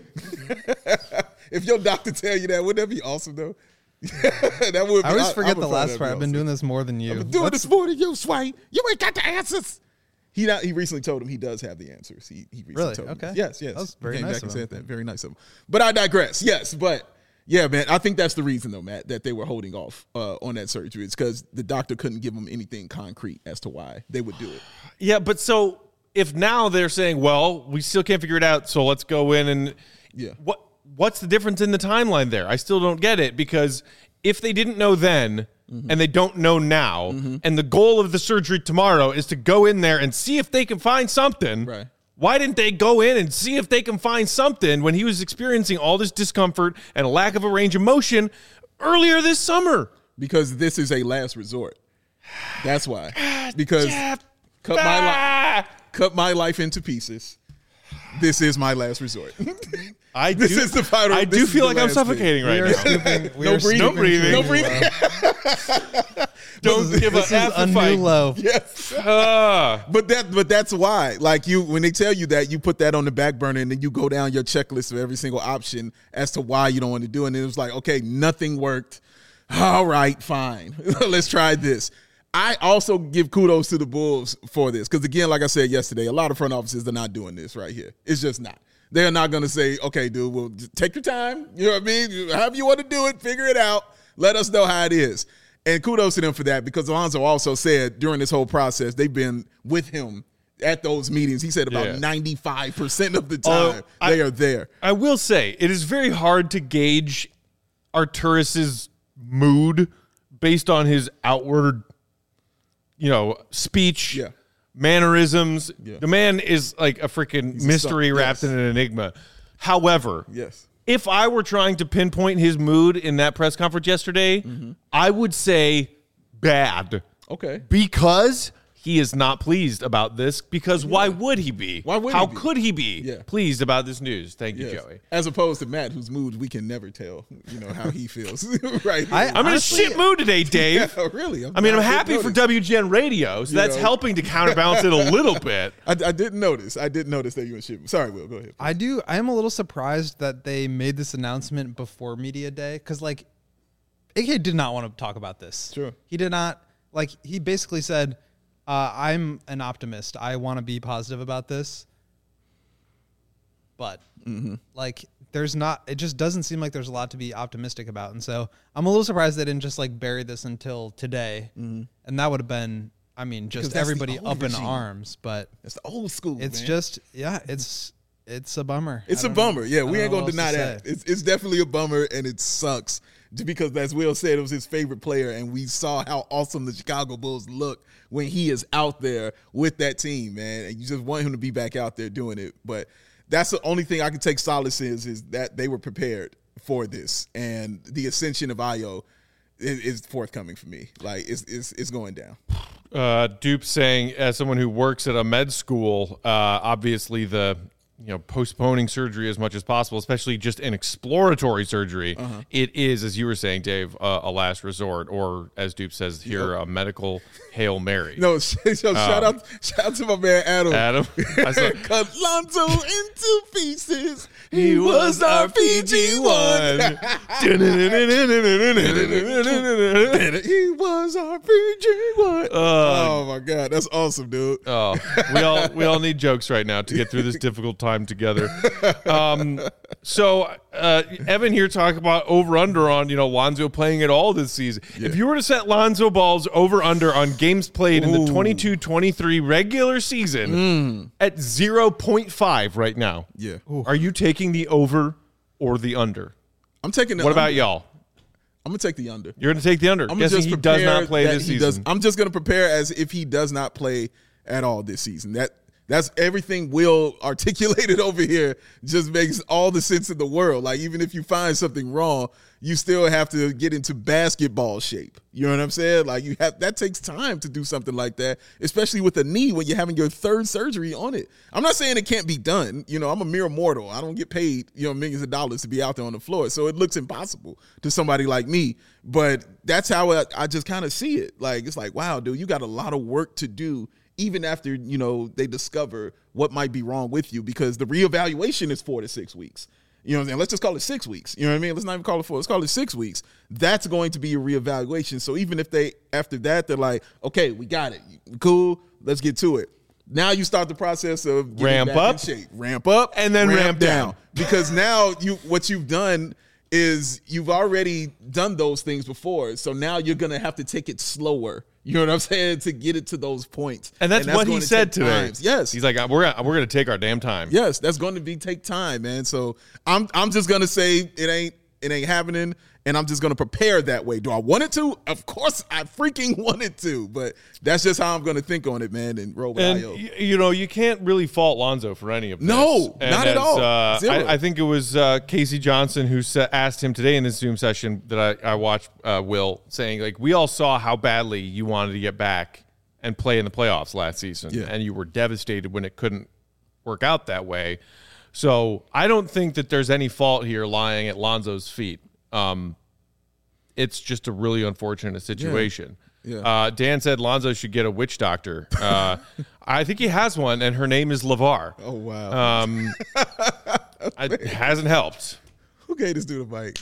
If your doctor tell you that, wouldn't that be awesome, though? That would be, I always forget the last part. I've been doing this more than you. I've been doing this more than you, Sway. You ain't got the answers. He recently told him he does have the answers. He recently really? told him. Okay. Yes. That was very nice of him. Said that. Very nice of him. But I digress. Yes, but Yeah, man. I think that's the reason, though, Matt, that they were holding off on that surgery. It's because the doctor couldn't give them anything concrete as to why they would do it. Yeah, but so if now they're saying, well, we still can't figure it out, so let's go in and what's the difference in the timeline there? I still don't get it, because if they didn't know then and they don't know now, and the goal of the surgery tomorrow is to go in there and see if they can find something, right. Why didn't they go in and see if they can find something when he was experiencing all this discomfort and a lack of a range of motion earlier this summer? Because this is a last resort. That's why. Because cut my life into pieces. This is my last resort. This is the final. I do feel like I'm suffocating right now. No breathing. No breathing. Don't give a new low. Yes. But that's why. Like when they tell you that, you put that on the back burner and then you go down your checklist of every single option as to why you don't want to do it. And it was like, okay, nothing worked. All right, fine. Let's try this. I also give kudos to the Bulls for this. Because again, like I said yesterday, a lot of front offices are not doing this right here. It's just not. They're not going to say, okay, dude, well, just take your time. You know what I mean? However you want to do it, figure it out. Let us know how it is. And kudos to them for that, because Alonzo also said during this whole process, they've been with him at those meetings. He said about 95% of the time they are there. I will say, it is very hard to gauge Arturas's mood based on his outward, speech, mannerisms. Yeah. The man is like a freaking mystery wrapped in an enigma. However, if I were trying to pinpoint his mood in that press conference yesterday, I would say bad. Okay. Because he is not pleased about this, because why would he be? How could he be pleased about this news? Thank you, Joey. As opposed to Matt, whose mood we can never tell, how he feels. Right. I'm in a shit mood today, Dave. Yeah, really? I'm happy for WGN Radio, so that's helping to counterbalance it a little bit. I didn't notice. I didn't notice that you were in shit mood. Sorry, Will. Go ahead. Please. I am a little surprised that they made this announcement before Media Day, because, AK did not want to talk about this. Sure. He did not. He basically said, I'm an optimist. I want to be positive about this. But, there's not, it just doesn't seem like there's a lot to be optimistic about. And so I'm a little surprised they didn't just bury this until today. And that would have been, just everybody up in arms. But it's the old school. It's it's a bummer. It's a bummer. Yeah, we ain't going to deny that. It's definitely a bummer, and it sucks. Because as Will said, it was his favorite player, and we saw how awesome the Chicago Bulls look when he is out there with that team, man. And you just want him to be back out there doing it. But that's the only thing I can take solace in is that they were prepared for this. And the ascension of Ayo is forthcoming for me. It's going down. Dupe saying, as someone who works at a med school, obviously the postponing surgery as much as possible, especially just an exploratory surgery, it is, as you were saying, Dave, a last resort, or as Dupe says here, a medical Hail Mary. No, shout out to my man Adam. Cut Lonzo into pieces. He was our PG1. He was our PG1. Oh my God, that's awesome, dude. We all need jokes right now to get through this difficult time together. So Evan here talked about over-under on Lonzo playing at all this season. If you were to set Lonzo Ball's over-under on games played in the 22-23 regular season at 0.5 right now, are you taking the over or the under? I'm taking the What under. about y'all? I'm going to take the under. You're going to take the under. Guessing he does not play this season. I'm just going to prepare as if he does not play at all this season. That's everything Will articulated over here just makes all the sense in the world. Even if you find something wrong, you still have to get into basketball shape. You know what I'm saying? That takes time to do something like that, especially with a knee when you're having your third surgery on it. I'm not saying it can't be done. I'm a mere mortal. I don't get paid, millions of dollars to be out there on the floor. So it looks impossible to somebody like me. But that's how I just kind of see it. It's wow, dude, you got a lot of work to do even after, they discover what might be wrong with you, because the reevaluation is 4 to 6 weeks. You know what I'm saying? Let's just call it 6 weeks. You know what I mean? Let's not even call it 4. Let's call it 6 weeks. That's going to be a reevaluation. So even if after that, they're like, okay, we got it. Cool. Let's get to it. Now you start the process of getting ramp back up, in shape. Ramp up, and then ramp down. Because now what you've done is you've already done those things before. So now you're going to have to take it slower. You know what I'm saying? To get it to those points. And that's what he said today. Times. Yes. He's like, we're going to take our damn time. Yes, that's going to take time, man. So I'm just going to say it ain't happening. And I'm just going to prepare that way. Do I want it to? Of course I freaking want it to. But that's just how I'm going to think on it, man, and roll with Ayo. You can't really fault Lonzo for any of this. No, not at all. I think it was Casey Johnson who asked him today in this Zoom session that I watched, Will, saying, like, we all saw how badly you wanted to get back and play in the playoffs last season. Yeah. And you were devastated when it couldn't work out that way. So I don't think that there's any fault here lying at Lonzo's feet. It's just a really unfortunate situation. Yeah. Dan said Lonzo should get a witch doctor. I think he has one, and her name is LeVar. Oh, wow. It hasn't helped. Who gave this dude a mic?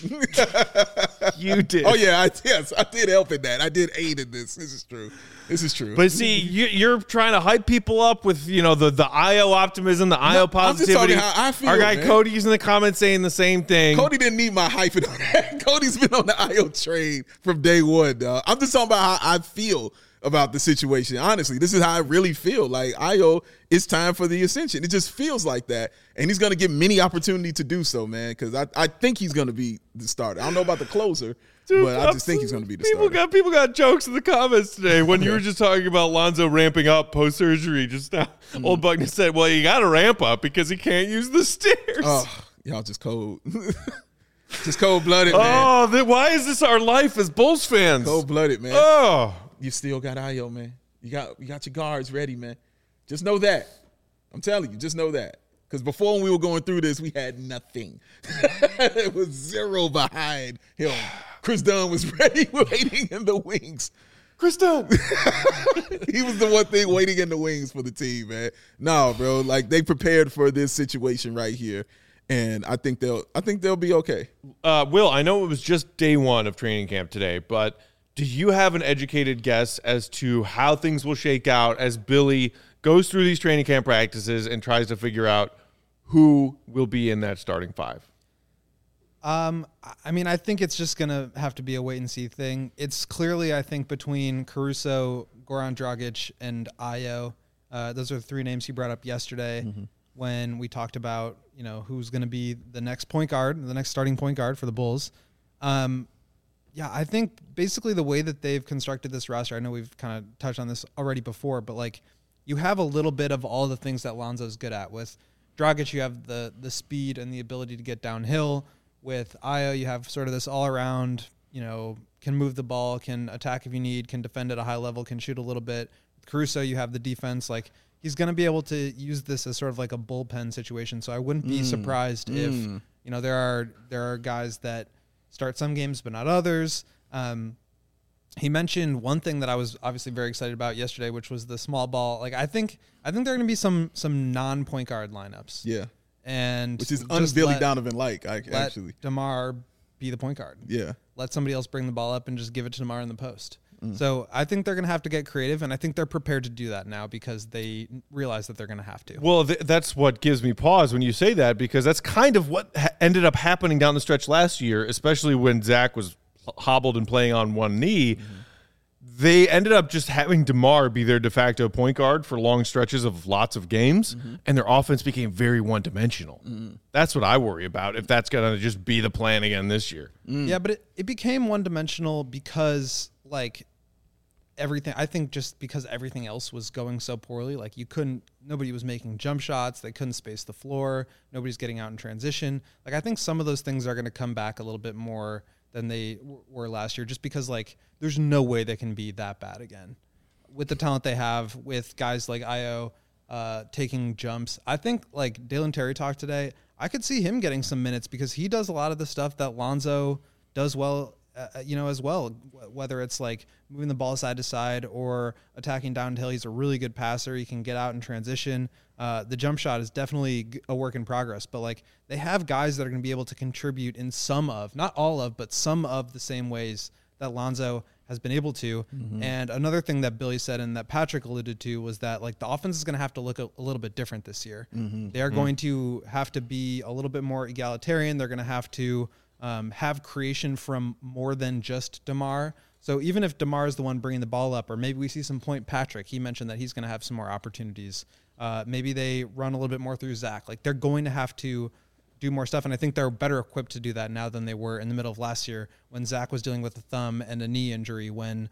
You did. Oh, yeah. I did help in that. I did aid in this. This is true. But see, you're trying to hype people up with, the Ayo optimism, the Ayo positivity. I'm just talking how I feel, our guy man. Cody's in the comments saying the same thing. Cody didn't need my hyping on that. Cody's been on the Ayo train from day one, dog. I'm just talking about how I feel about the situation. Honestly, this is how I really feel. Like, Ayo, it's time for the ascension. It just feels like that. And he's going to get many opportunity to do so, man, because I think he's going to be the starter. I don't know about the closer, dude, but I just think he's going to be the starter. People got jokes in the comments today when you were just talking about Lonzo ramping up post-surgery just now. Old Buckner said, well, you got to ramp up because he can't use the stairs. Oh, y'all just cold. Just cold-blooded, man. Oh, why is this our life as Bulls fans? Cold-blooded, man. Oh. You still got Ayo, man. You got your guards ready, man. Just know that. I'm telling you, just know that. Because before when we were going through this, we had nothing. It was 0 behind him. Chris Dunn was ready, waiting in the wings. Chris Dunn. He was the one thing waiting in the wings for the team, man. No, bro. Like, they prepared for this situation right here. And I think they'll be okay. Will, I know it was just day one of training camp today, but do you have an educated guess as to how things will shake out as Billy goes through these training camp practices and tries to figure out who will be in that starting five? I mean, I think it's just going to have to be a wait-and-see thing. It's clearly, I think, between Caruso, Goran Dragic, and Ayo. Those are the three names he brought up yesterday when we talked about, who's going to be the next point guard, the next starting point guard for the Bulls. Yeah, I think basically the way that they've constructed this roster, I know we've kind of touched on this already before, but like you have a little bit of all the things that Lonzo's good at. With Dragic, you have the speed and the ability to get downhill. With Ayo, you have sort of this all-around, can move the ball, can attack if you need, can defend at a high level, can shoot a little bit. With Caruso, you have the defense. Like, he's going to be able to use this as sort of like a bullpen situation. So I wouldn't be surprised if, there are guys that start some games, but not others. He mentioned one thing that I was obviously very excited about yesterday, which was the small ball. Like, I think there are going to be some non-point guard lineups. Yeah. And which is un-Billy Donovan-like, actually. Let DeMar be the point guard. Yeah. Let somebody else bring the ball up and just give it to DeMar in the post. So I think they're going to have to get creative, and I think they're prepared to do that now because they realize that they're going to have to. Well, that's what gives me pause when you say that, because that's kind of what ended up happening down the stretch last year, especially when Zach was hobbled and playing on one knee. They ended up just having DeMar be their de facto point guard for long stretches of lots of games, and their offense became very one-dimensional. That's what I worry about, if that's going to just be the plan again this year. Yeah, but it became one-dimensional because, like, everything, I think just because everything else was going so poorly, like nobody was making jump shots, they couldn't space the floor, nobody's getting out in transition. Like, I think some of those things are going to come back a little bit more than they were last year, just because, like, there's no way they can be that bad again with the talent they have, with guys like Ayo taking jumps. I think, like, Dalen Terry talked today, I could see him getting some minutes because he does a lot of the stuff that Lonzo does well, as well, whether it's like moving the ball side to side or attacking downhill. He's a really good passer. He can get out in transition. The jump shot is definitely a work in progress, but like they have guys that are going to be able to contribute in some of, not all of, but some of the same ways that Lonzo has been able to. And another thing that Billy said and that Patrick alluded to was that, like, the offense is going to have to look a little bit different this year. They are going to have to be a little bit more egalitarian. They're going to have to have creation from more than just DeMar. So even if DeMar is the one bringing the ball up, or maybe we see some point Patrick, he mentioned that he's going to have some more opportunities. Maybe they run a little bit more through Zach. Like, they're going to have to do more stuff, and I think they're better equipped to do that now than they were in the middle of last year when Zach was dealing with a thumb and a knee injury, when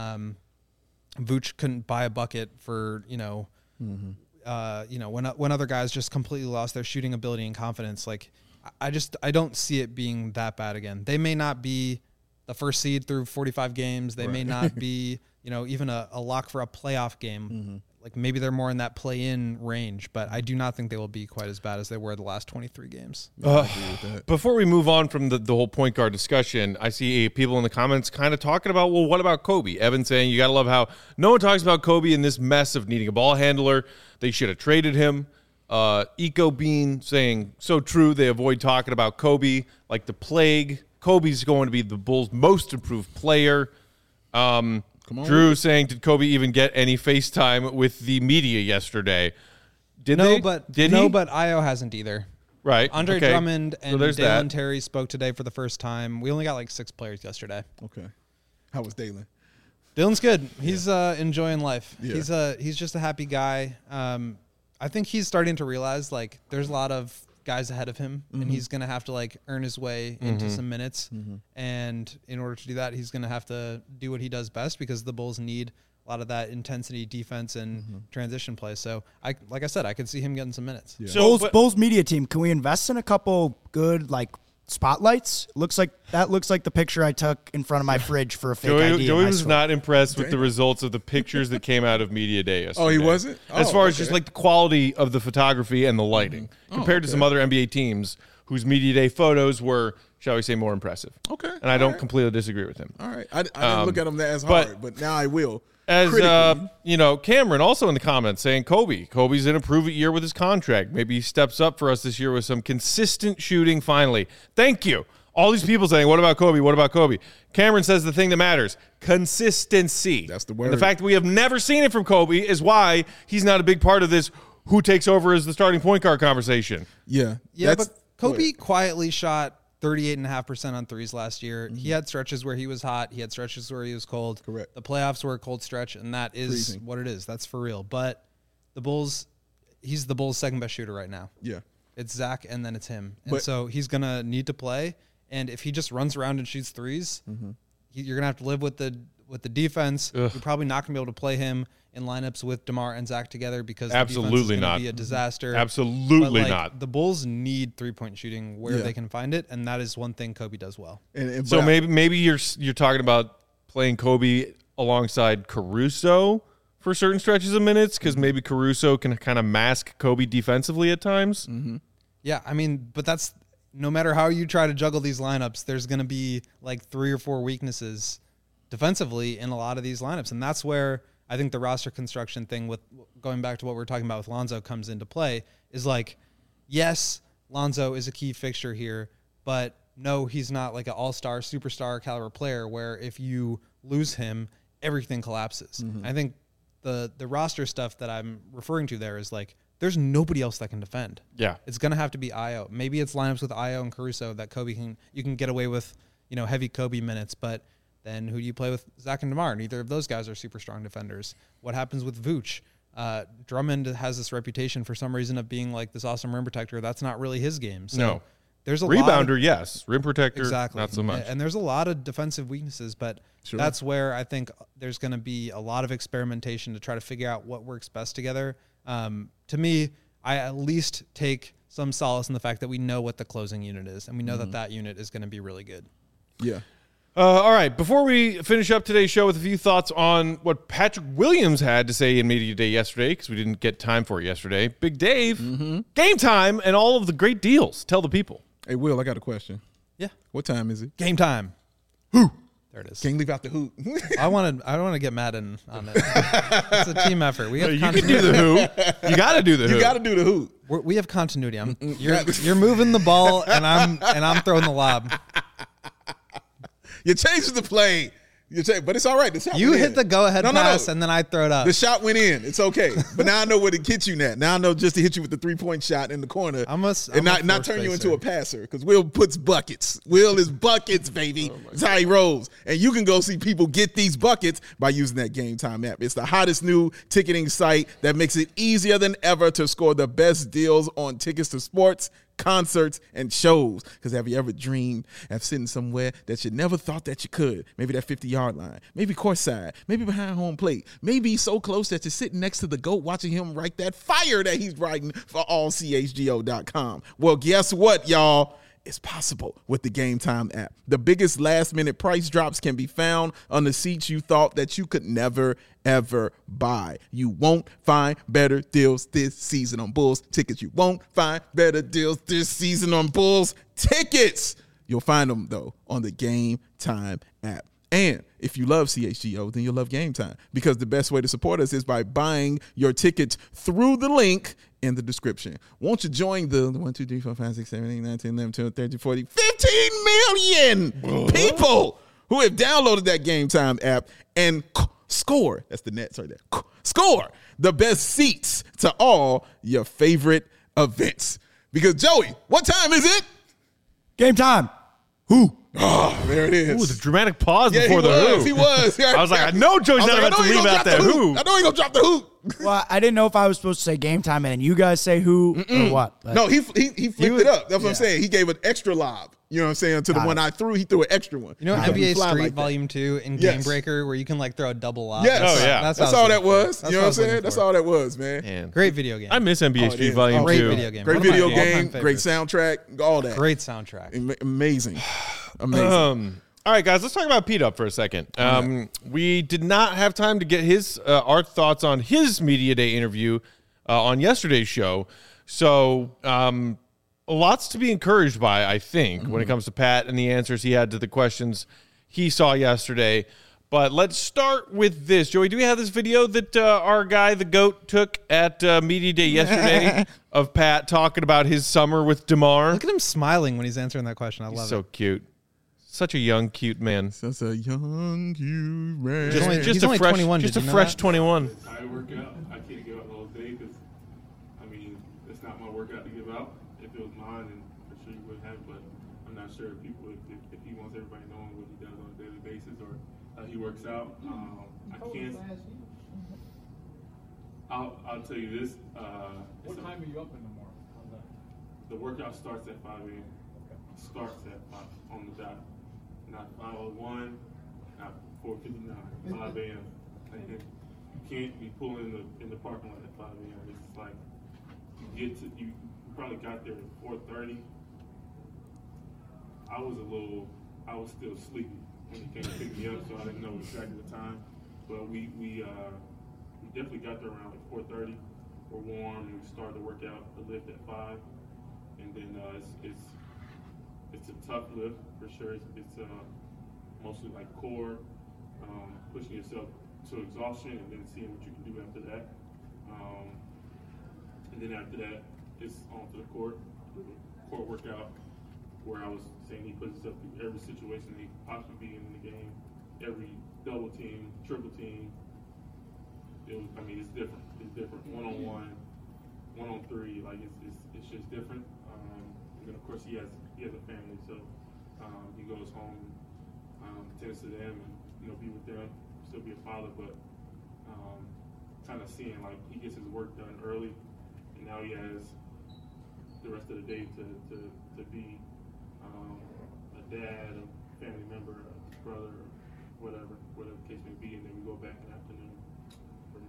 Vooch couldn't buy a bucket for, when other guys just completely lost their shooting ability and confidence. Like, I don't see it being that bad again. They may not be the first seed through 45 games. They may not be, even a lock for a playoff game. Mm-hmm. Like, maybe they're more in that play-in range, but I do not think they will be quite as bad as they were the last 23 games. I agree with that. Before we move on from the whole point guard discussion, I see people in the comments kind of talking about, well, what about Kobe? Evan saying, you got to love how no one talks about Kobe in this mess of needing a ball handler. They should have traded him. Eco Bean saying, so true, they avoid talking about Kobe like the plague. Kobe's going to be the Bulls' most improved player. Drew saying, did Kobe even get any FaceTime with the media yesterday? Did he? But Io hasn't either. Right. Andre okay. Drummond and so Dalen Terry spoke today for the first time. We only got like 6 players yesterday. Okay. How was Dalen? Dalen's good. He's enjoying life. Yeah. He's just a happy guy. I think he's starting to realize, like, there's a lot of guys ahead of him, and he's going to have to, like, earn his way into some minutes. And in order to do that, he's going to have to do what he does best, because the Bulls need a lot of that intensity, defense, and transition play. So, like I said, I could see him getting some minutes. Yeah. So, Bulls media team, can we invest in a couple good, like, spotlights? Looks like the picture I took in front of my fridge for a fake ID. Joey was not impressed with the results of the pictures that came out of Media Day yesterday. Oh, he wasn't? As far as just like the quality of the photography and the lighting compared to some other NBA teams whose Media Day photos were, shall we say, more impressive. Okay. And I don't completely disagree with him. All right. I didn't look at him as hard, but now I will. As Cameron also in the comments saying Kobe's in a prove-it year with his contract. Maybe he steps up for us this year with some consistent shooting finally. Thank you. All these people saying, what about Kobe? What about Kobe? Cameron says the thing that matters, consistency. That's the word. And the fact that we have never seen it from Kobe is why he's not a big part of this who takes over as the starting point guard conversation. Yeah. Yeah, but Kobe quietly shot 38.5% on threes last year. He had stretches where he was hot. He had stretches where he was cold. Correct. The playoffs were a cold stretch, and that is Freezing. what it is. That's for real. But the Bulls, he's the Bulls' second best shooter right now. Yeah. It's Zach, and then it's him. And But- so he's going to need to play. And if he just runs around and shoots threes, you're going to have to live with the defense. Ugh. You're probably not going to be able to play him in lineups with DeMar and Zach together, because Absolutely the defense is not. going to be a disaster. Absolutely But, not. The Bulls need three-point shooting where Yeah. they can find it, and that is one thing Kobe does well. So maybe you're talking about playing Kobe alongside Caruso for certain stretches of minutes, because maybe Caruso can kind of mask Kobe defensively at times. Yeah, I mean, but that's no matter how you try to juggle these lineups, there's going to be like 3 or 4 weaknesses defensively in a lot of these lineups, and that's where I think the roster construction thing, with going back to what we were talking about with Lonzo, comes into play. Is like, yes, Lonzo is a key fixture here, but no, he's not like an all-star, superstar caliber player where if you lose him, everything collapses. I think the roster stuff that I'm referring to there is like, there's nobody else that can defend. Yeah. It's going to have to be Io. Maybe it's lineups with Io and Caruso that you can get away with, heavy Kobe minutes, but then who do you play with Zach and DeMar? Neither of those guys are super strong defenders. What happens with Vooch? Drummond has this reputation for some reason of being like this awesome rim protector. That's not really his game. So No. there's a Rebounder, yes. Rim protector, exactly. not so much. And there's a lot of defensive weaknesses, but that's where I think there's going to be a lot of experimentation to try to figure out what works best together. To me, I at least take some solace in the fact that we know what the closing unit is, and we know that unit is going to be really good. Yeah. All right, before we finish up today's show with a few thoughts on what Patrick Williams had to say in Media Day yesterday, because we didn't get time for it yesterday, Big Dave, game time, and all of the great deals. Tell the people. Hey, Will, I got a question. Yeah. What time is it? Game time. Who? There it is. Can't leave out the hoop. I don't want to get Madden on it. It's a team effort. We have You can do the who. You got to do the who. You got to do the hoop. We have continuity. You're moving the ball, and I'm throwing the lob. You changed the play. But it's all right. The shot You went hit in. the go-ahead pass, No. and then I throw it up. The shot went in. It's okay. But now I know where to get you now. Now I know just to hit you with the 3-point shot in the corner I'm not turn you into a passer, because Will puts buckets. Will is buckets, baby. That's how he rolls. And you can go see people get these buckets by using that Game Time app. It's the hottest new ticketing site that makes it easier than ever to score the best deals on tickets to sports, concerts, and shows. Because have you ever dreamed of sitting somewhere that you never thought that you could? Maybe that 50-yard line, maybe courtside, maybe behind home plate, maybe so close that you're sitting next to the GOAT watching him write that fire that he's writing for allchgo.com. Well, guess what, y'all? It's possible with the Game Time app. The biggest last-minute price drops can be found on the seats you thought that you could never, ever buy. You won't find better deals this season on Bulls tickets. You won't find better deals this season on Bulls tickets. You'll find them, though, on the Game Time app. And if you love CHGO, then you'll love Game Time, because the best way to support us is by buying your tickets through the link in the description. Won't you join the 1, 2, 3, 4, 5, 6, 7, 8, 9, 10, 11, 12, 13, 14, 15 million people who have downloaded that Game Time app and score. That's the Nets right there. Score the best seats to all your favorite events. Because, Joey, what time is it? Game time. Who? Oh, there it is. Ooh, the dramatic pause Yeah, before the who. He was. I was like, I know Joey's not about to leave out that who. I know he's going to drop the who. Well, I didn't know if I was supposed to say game time and then you guys say who or what. But No, he flipped it up. That's what I'm saying. He gave an extra lob. You know what I'm saying? To the one I threw, he threw an extra one. You know He NBA fly Street like that. Volume 2 in Yes. Game Breaker, where you can like throw a double lob? Yes. Oh, yeah. That's all that was. That's You know what I'm saying? That's all that was, man. Man. Great video game. I miss NBA Oh, it Street is. Volume Great 2. video game. Great One of my video all-time game, great favorites. soundtrack, all that. Great soundtrack. Amazing. Amazing. All right, guys, let's talk about Pete Up for a second. We did not have time to get our thoughts on his Media Day interview on yesterday's show. So lots to be encouraged by, I think, when it comes to Pat and the answers he had to the questions he saw yesterday. But let's start with this. Joey, do we have this video that our guy, the GOAT, took at Media Day yesterday of Pat talking about his summer with DeMar? Look at him smiling when he's answering that question. I love He's so it. cute. Such a young, cute man. That's a young you man. He's only 21, Just did a you know fresh that? 21. I work out. I can't give out the whole day because, I mean, it's not my workout to give out. If it was mine, then for sure you would have. But I'm not sure if people, if he wants everybody knowing what he does on a daily basis or how he works out. I can't. I'll tell you this. What time are you up in the morning? The workout starts at 5 a.m. Starts at 5 on the dot. Not 5:01, not 4:59, 5 a.m. And you can't be pulling in the parking lot at 5 a.m. It's like you probably got there at 4:30. I was still sleepy when he came to pick me up, so I didn't know exactly the time. But we definitely got there around like 4:30. We're warm and we started the workout, the lift at 5, and then it's a tough lift for sure. It's mostly like core, pushing yourself to exhaustion, and then seeing what you can do after that. And then after that, it's onto the court workout, where I was saying he puts himself through every situation that he could possibly be in the game, every double team, triple team. It's different. It's different. 1-on-1, 1-on-3. Like it's just different. And then of course he has a family, so he goes home, tends to them, and be with them, still be a father, but kind of seeing like he gets his work done early, and now he has the rest of the day to be a dad, a family member, a brother, whatever the case may be, and then we go back in the afternoon for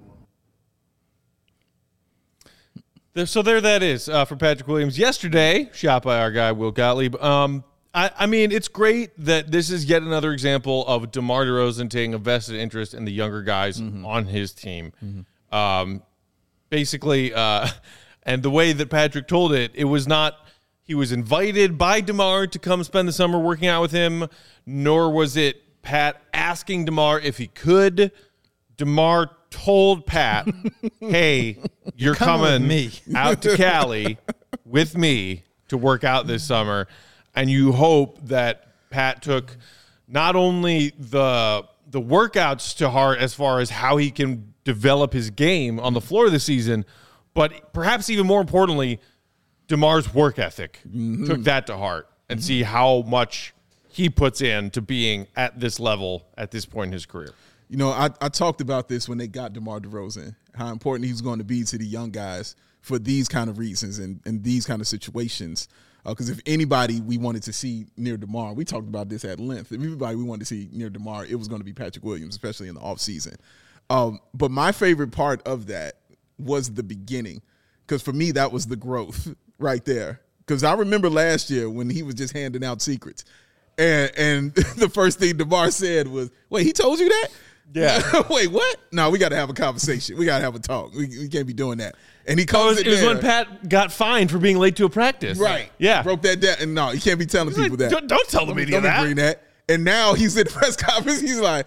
more. So there that is for Patrick Williams. Yesterday, shot by our guy, Will Gottlieb. I mean, it's great that this is yet another example of DeMar DeRozan taking a vested interest in the younger guys on his team. Basically, and the way that Patrick told it, it was not he was invited by DeMar to come spend the summer working out with him, nor was it Pat asking DeMar if he could. DeMar told Pat, hey, you're coming with me out to Cali with me to work out this summer. And you hope that Pat took not only the workouts to heart as far as how he can develop his game on the floor this season, but perhaps even more importantly, DeMar's work ethic. Took that to heart and see how much he puts in to being at this level at this point in his career. You know, I talked about this when they got DeMar DeRozan, how important he's going to be to the young guys for these kind of reasons and these kind of situations. Because if anybody we wanted to see near DeMar, we talked about this at length. If anybody we wanted to see near DeMar, it was going to be Patrick Williams, especially in the offseason. But my favorite part of that was the beginning, because for me, that was the growth right there. Because I remember last year when he was just handing out secrets. And the first thing DeMar said was, wait, he told you that? Yeah. Wait, what? No, we got to have a conversation. We got to have a talk. We can't be doing that. And he comes it was when Pat got fined for being late to a practice. Right. Yeah. Broke that down. And no, you can't be telling people that. Don't tell the media Don't bring that. And now he's in the press conference. He's like,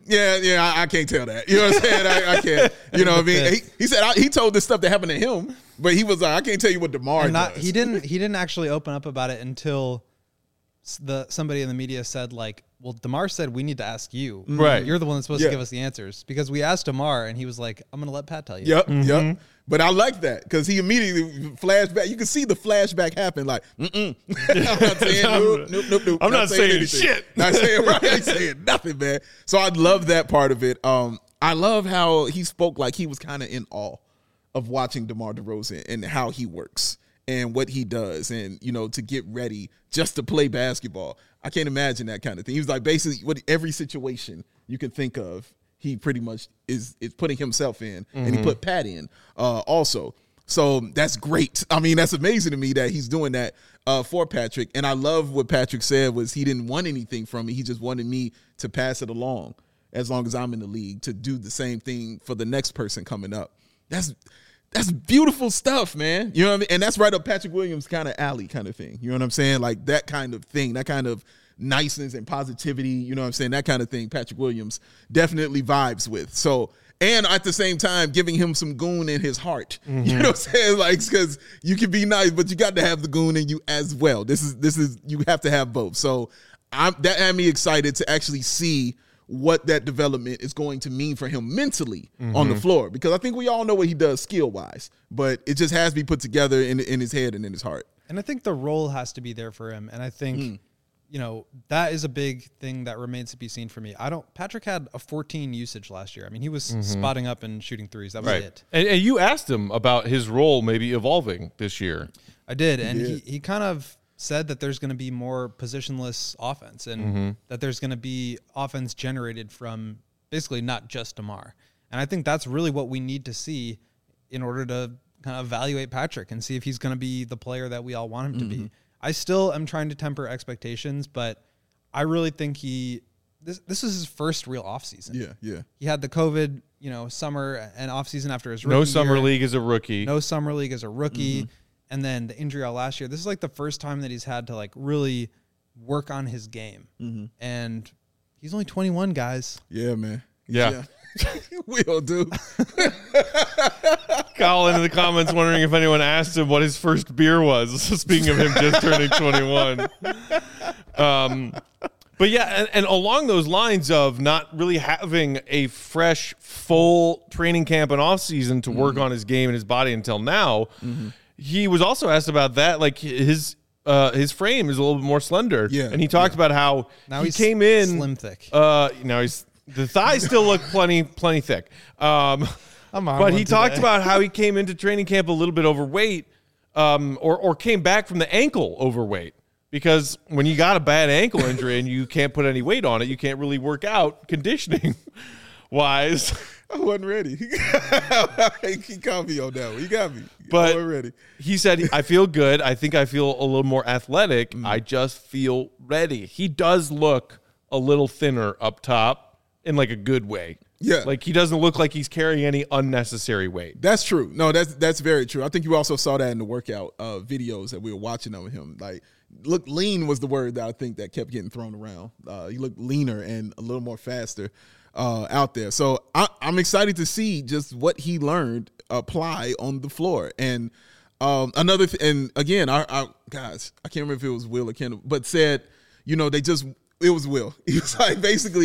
yeah, I can't tell that. You know what I'm saying? I can't. You know what I mean? He said he told this stuff that happened to him, but he was like, I can't tell you what DeMar does. He didn't actually open up about it until somebody in the media said, like, well, DeMar said we need to ask you. Right. You're the one that's supposed to give us the answers, because we asked DeMar and he was like, I'm going to let Pat tell you. Yep. But I like that because he immediately flashed back. You can see the flashback happen. Like, I'm not saying nope. I'm not saying anything. shit. Not saying right. I ain't saying nothing, man. So I love that part of it. I love how he spoke like he was kind of in awe of watching DeMar DeRozan and how he works and what he does, and you know, to get ready just to play basketball. I can't imagine that kind of thing. He was like, basically, every situation you can think of, he pretty much is putting himself in, and he put Pat in also. So that's great. I mean, that's amazing to me that he's doing that for Patrick. And I love what Patrick said was he didn't want anything from me. He just wanted me to pass it along as long as I'm in the league, to do the same thing for the next person coming up. That's beautiful stuff, man. You know what I mean? And that's right up Patrick Williams kind of alley kind of thing. You know what I'm saying? Like that kind of thing, that kind of niceness and positivity, you know what I'm saying? That kind of thing Patrick Williams definitely vibes with. So, and at the same time, giving him some goon in his heart. You know what I'm saying? Like, because you can be nice, but you got to have the goon in you as well. This is you have to have both. So that had me excited to actually see what that development is going to mean for him mentally on the floor, because I think we all know what he does skill-wise, but it just has to be put together in his head and in his heart. And I think the role has to be there for him. And I think, you know, that is a big thing that remains to be seen for me. Patrick had a 14 usage last year. I mean, he was spotting up and shooting threes. That was it. And you asked him about his role maybe evolving this year. I did. And he kind of said that there's going to be more positionless offense, and that there's going to be offense generated from basically not just DeMar. And I think that's really what we need to see in order to kind of evaluate Patrick and see if he's going to be the player that we all want him to be. I still am trying to temper expectations, but I really think this is his first real offseason. Yeah. He had the COVID, summer and offseason after his rookie No summer year. league as a rookie. No summer league as a rookie. And then the injury all last year. This is like the first time that he's had to like really work on his game. And he's only 21, guys. Yeah, man. Yeah. We all do. Colin in the comments wondering if anyone asked him what his first beer was. Speaking of him just turning 21. But yeah, and along those lines of not really having a fresh, full training camp and off season to work on his game and his body until now, he was also asked about that. Like his frame is a little bit more slender. Yeah. And he talked about how Now he came in slim thick. Now the thighs still look plenty thick. But he talked about how he came into training camp a little bit overweight, or came back from the ankle overweight. Because when you got a bad ankle injury and you can't put any weight on it, you can't really work out conditioning wise. I wasn't ready. He caught me on that one. He got me. But I wasn't ready. He said, I feel good. I think I feel a little more athletic. I just feel ready. He does look a little thinner up top in like a good way. Yeah. Like he doesn't look like he's carrying any unnecessary weight. That's true. No, that's very true. I think you also saw that in the workout videos that we were watching of him. Like, look, lean was the word that I think that kept getting thrown around. He looked leaner and a little more faster out there. So I'm excited to see just what he learned apply on the floor. And another and again, our guys, I can't remember if it was Will or Kendall, but said, it was Will. He was like, basically,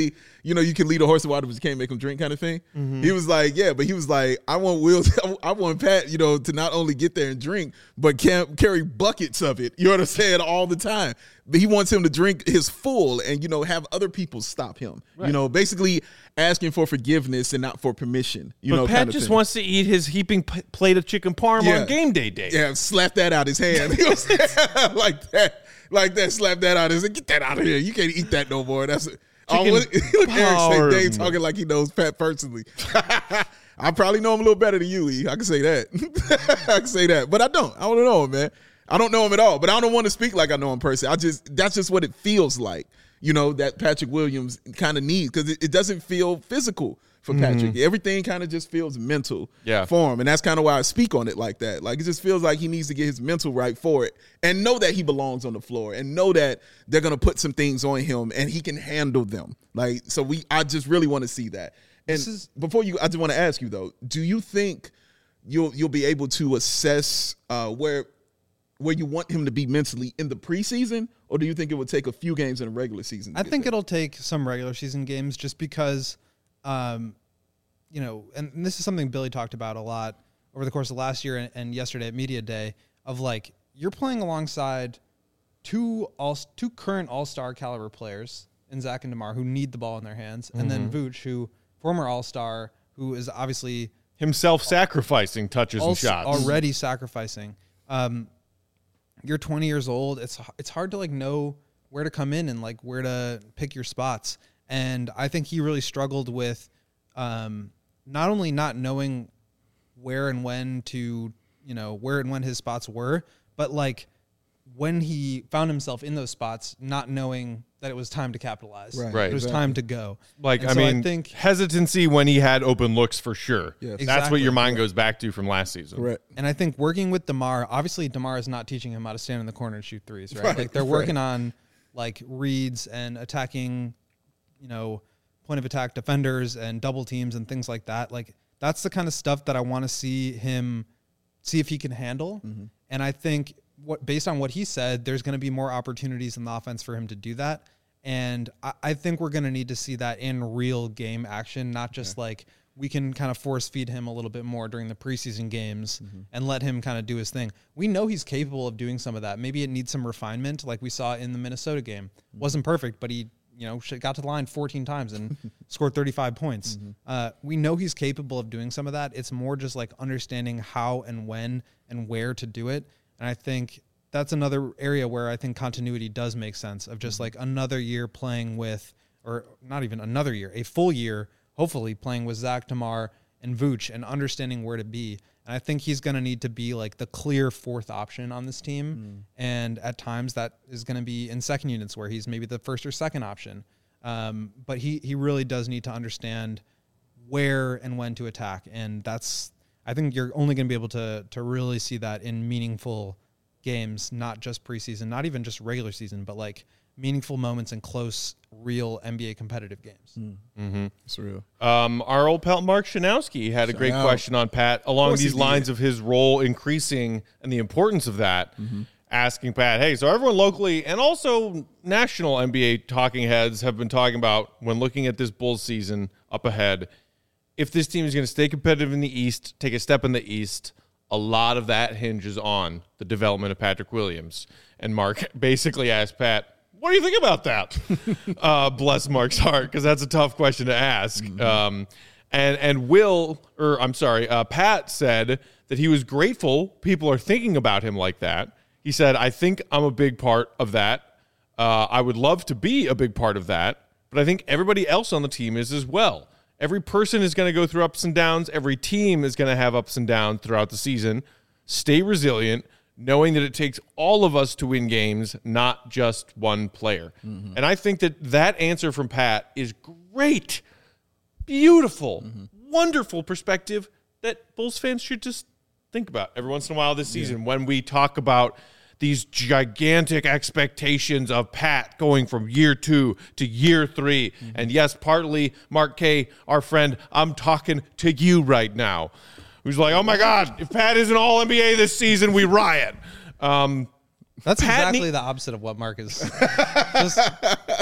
you can lead a horse to water, but you can't make him drink kind of thing. He was like, yeah, but he was like, I want Pat, to not only get there and drink, but carry buckets of it. You know what I'm saying? All the time. But he wants him to drink his full and, have other people stop him. Right. Basically asking for forgiveness and not for permission. But Pat just wants to eat his heaping plate of chicken parm on game day. Yeah, slap that out his hand. Like that, slap that out his hand. Get that out of here. You can't eat that no more. That's Eric say Dave talking like he knows Pat personally. I probably know him a little better than you, E. I can say that. But I don't know him, man. I don't know him at all. But I don't want to speak like I know him personally. That's just what it feels like, that Patrick Williams kind of needs, because it doesn't feel physical for Patrick. Everything kind of just feels mental for him. And that's kind of why I speak on it like that. Like, it just feels like he needs to get his mental right for it and know that he belongs on the floor and know that they're going to put some things on him and he can handle them. Like, so I just really want to see that. And I just want to ask you though, do you think you'll be able to assess where you want him to be mentally in the preseason, or do you think it would take a few games in a regular season? I think it'll take some regular season games just because, and this is something Billy talked about a lot over the course of last year and yesterday at Media Day, of like, you're playing alongside two current all-star caliber players in Zach and DeMar who need the ball in their hands, and then Vooch, who former all-star, who is obviously himself sacrificing touches and shots, already sacrificing. You're 20 years old. It's hard to know where to come in and where to pick your spots. And I think he really struggled with not only not knowing where and when his spots were, but when he found himself in those spots, not knowing that it was time to capitalize. Right. It was time to go. I think hesitancy when he had open looks for sure. Yes. Exactly. That's what your mind goes back to from last season. Right. And I think working with DeMar, obviously DeMar is not teaching him how to stand in the corner and shoot threes, right? They're working on reads and attacking, point of attack defenders and double teams and things like that. That's the kind of stuff that I want to see if he can handle. Mm-hmm. And I think based on what he said, there's going to be more opportunities in the offense for him to do that. And I think we're going to need to see that in real game action, not just we can kind of force feed him a little bit more during the preseason games and let him kind of do his thing. We know he's capable of doing some of that. Maybe it needs some refinement, like we saw in the Minnesota game. Wasn't perfect, but he got to the line 14 times and scored 35 points. We know he's capable of doing some of that. It's more just understanding how and when and where to do it. And I think that's another area where I think continuity does make sense, of just another year playing with, or not even another year, a full year, hopefully playing with Zach, DeMar, and Vooch and understanding where to be. And I think he's going to need to be the clear fourth option on this team. And at times that is going to be in second units where he's maybe the first or second option. But he really does need to understand where and when to attack. And I think you're only going to be able to really see that in meaningful games, not just preseason, not even just regular season, but meaningful moments in close, real NBA competitive games. It's real. Our old pal Mark Shanowski had a great question on Pat along these lines of his role increasing and the importance of that, asking Pat, hey, so everyone locally and also national NBA talking heads have been talking about, when looking at this Bulls season up ahead, if this team is going to stay competitive in the East, take a step in the East, a lot of that hinges on the development of Patrick Williams. And Mark basically asked Pat, what do you think about that? Bless Mark's heart, because that's a tough question to ask. Pat said that he was grateful people are thinking about him like that. He said, I think I'm a big part of that. I would love to be a big part of that, but I think everybody else on the team is as well. Every person is going to go through ups and downs. Every team is going to have ups and downs throughout the season. Stay resilient, knowing that it takes all of us to win games, not just one player. And I think that answer from Pat is great, beautiful, wonderful perspective that Bulls fans should just think about every once in a while this season when we talk about these gigantic expectations of Pat going from year 2 to year 3. And yes, partly, Mark K., our friend, I'm talking to you right now, who's like, oh my God, if Pat isn't all NBA this season, we riot. That's exactly the opposite of what Mark is.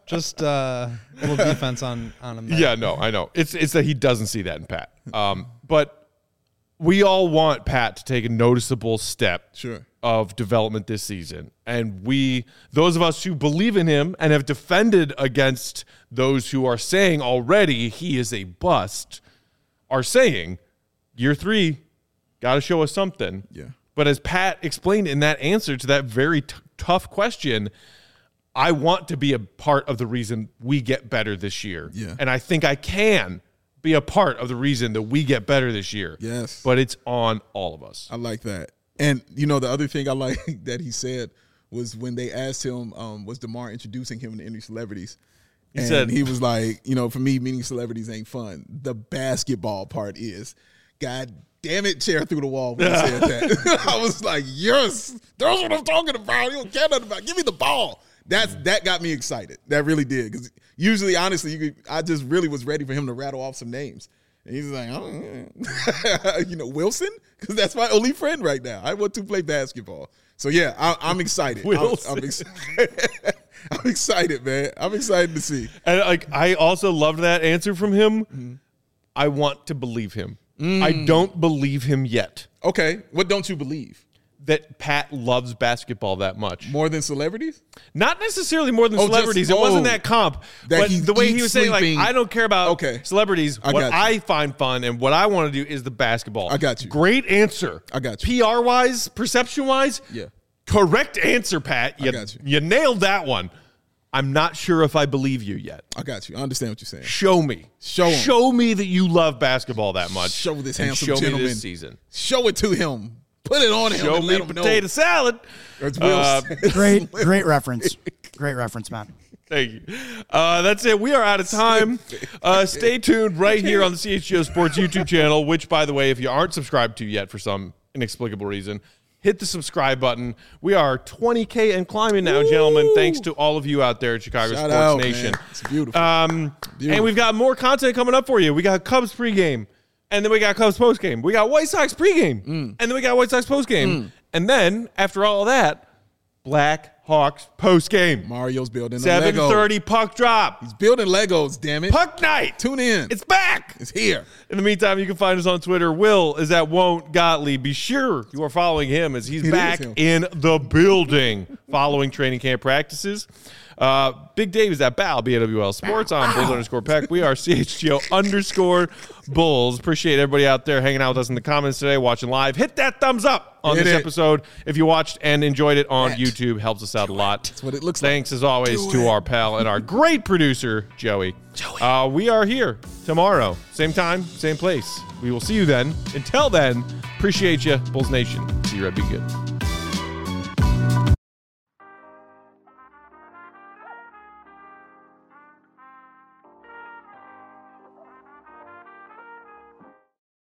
Just a little defense on him. There. Yeah, no, I know. It's that he doesn't see that in Pat. But we all want Pat to take a noticeable step of development this season. And those of us who believe in him and have defended against those who are saying already he is a bust, are saying, year 3, got to show us something. Yeah. But as Pat explained in that answer to that very tough question, I want to be a part of the reason we get better this year. Yeah. And I think I can be a part of the reason that we get better this year. Yes. But it's on all of us. I like that. And, the other thing I like that he said was when they asked him, was DeMar introducing him to any celebrities? He said, he was like, for me, meeting celebrities ain't fun. The basketball part is. God damn it, chair through the wall when he said that. I was like, yes, that's what I'm talking about. You don't care nothing about it. Give me the ball. That got me excited. That really did. Because usually, honestly, I just really was ready for him to rattle off some names. And he's like, Wilson? Because that's my only friend right now. I want to play basketball. So, yeah, I'm excited. I'm excited, man. I'm excited to see. And I also loved that answer from him. Mm-hmm. I want to believe him. I don't believe him yet. Okay. What don't you believe? That Pat loves basketball that much. More than celebrities? Not necessarily more than celebrities. It wasn't that comp. But the way he was saying, I don't care about celebrities. What I find fun and what I want to do is the basketball. I got you. Great answer. I got you. PR-wise, perception-wise, correct answer, Pat. I got you. You nailed that one. I'm not sure if I believe you yet. I got you. I understand what you're saying. Show me. Show me that you love basketball that much. Show this handsome gentleman. Me this season. Show it to him. Put it on him. Show me potato salad. Great reference. Great reference, man. Thank you. That's it. We are out of time. Stay tuned right here on the CHGO Sports YouTube channel, which, by the way, if you aren't subscribed to yet for some inexplicable reason, hit the subscribe button. We are 20K and climbing now, gentlemen, thanks to all of you out there at Chicago Sports Nation. Man. It's beautiful. And we've got more content coming up for you. We got Cubs pregame, and then we got Cubs postgame. We got White Sox pregame, and then we got White Sox postgame. And then, after all of that, Black Hawks postgame. Mario's building a Lego. 7:30 puck drop. He's building Legos, damn it. Puck night. Tune in. It's back. It's here. In the meantime, you can find us on Twitter. Will is at Won't Gottlieb. Be sure you are following him as he's back in the building following training camp practices. Big Dave is at BAL, BAWL Sports. I'm Bulls_Peck. We are CHGO_Bulls. Appreciate everybody out there hanging out with us in the comments today, watching live. Hit that thumbs up on this episode. If you watched and enjoyed it on YouTube, helps us out a lot. That's what it looks Thanks, as always, to our pal and our great producer, Joey. We are here tomorrow. Same time, same place. We will see you then. Until then, appreciate you, Bulls Nation. See you, Red. Be good.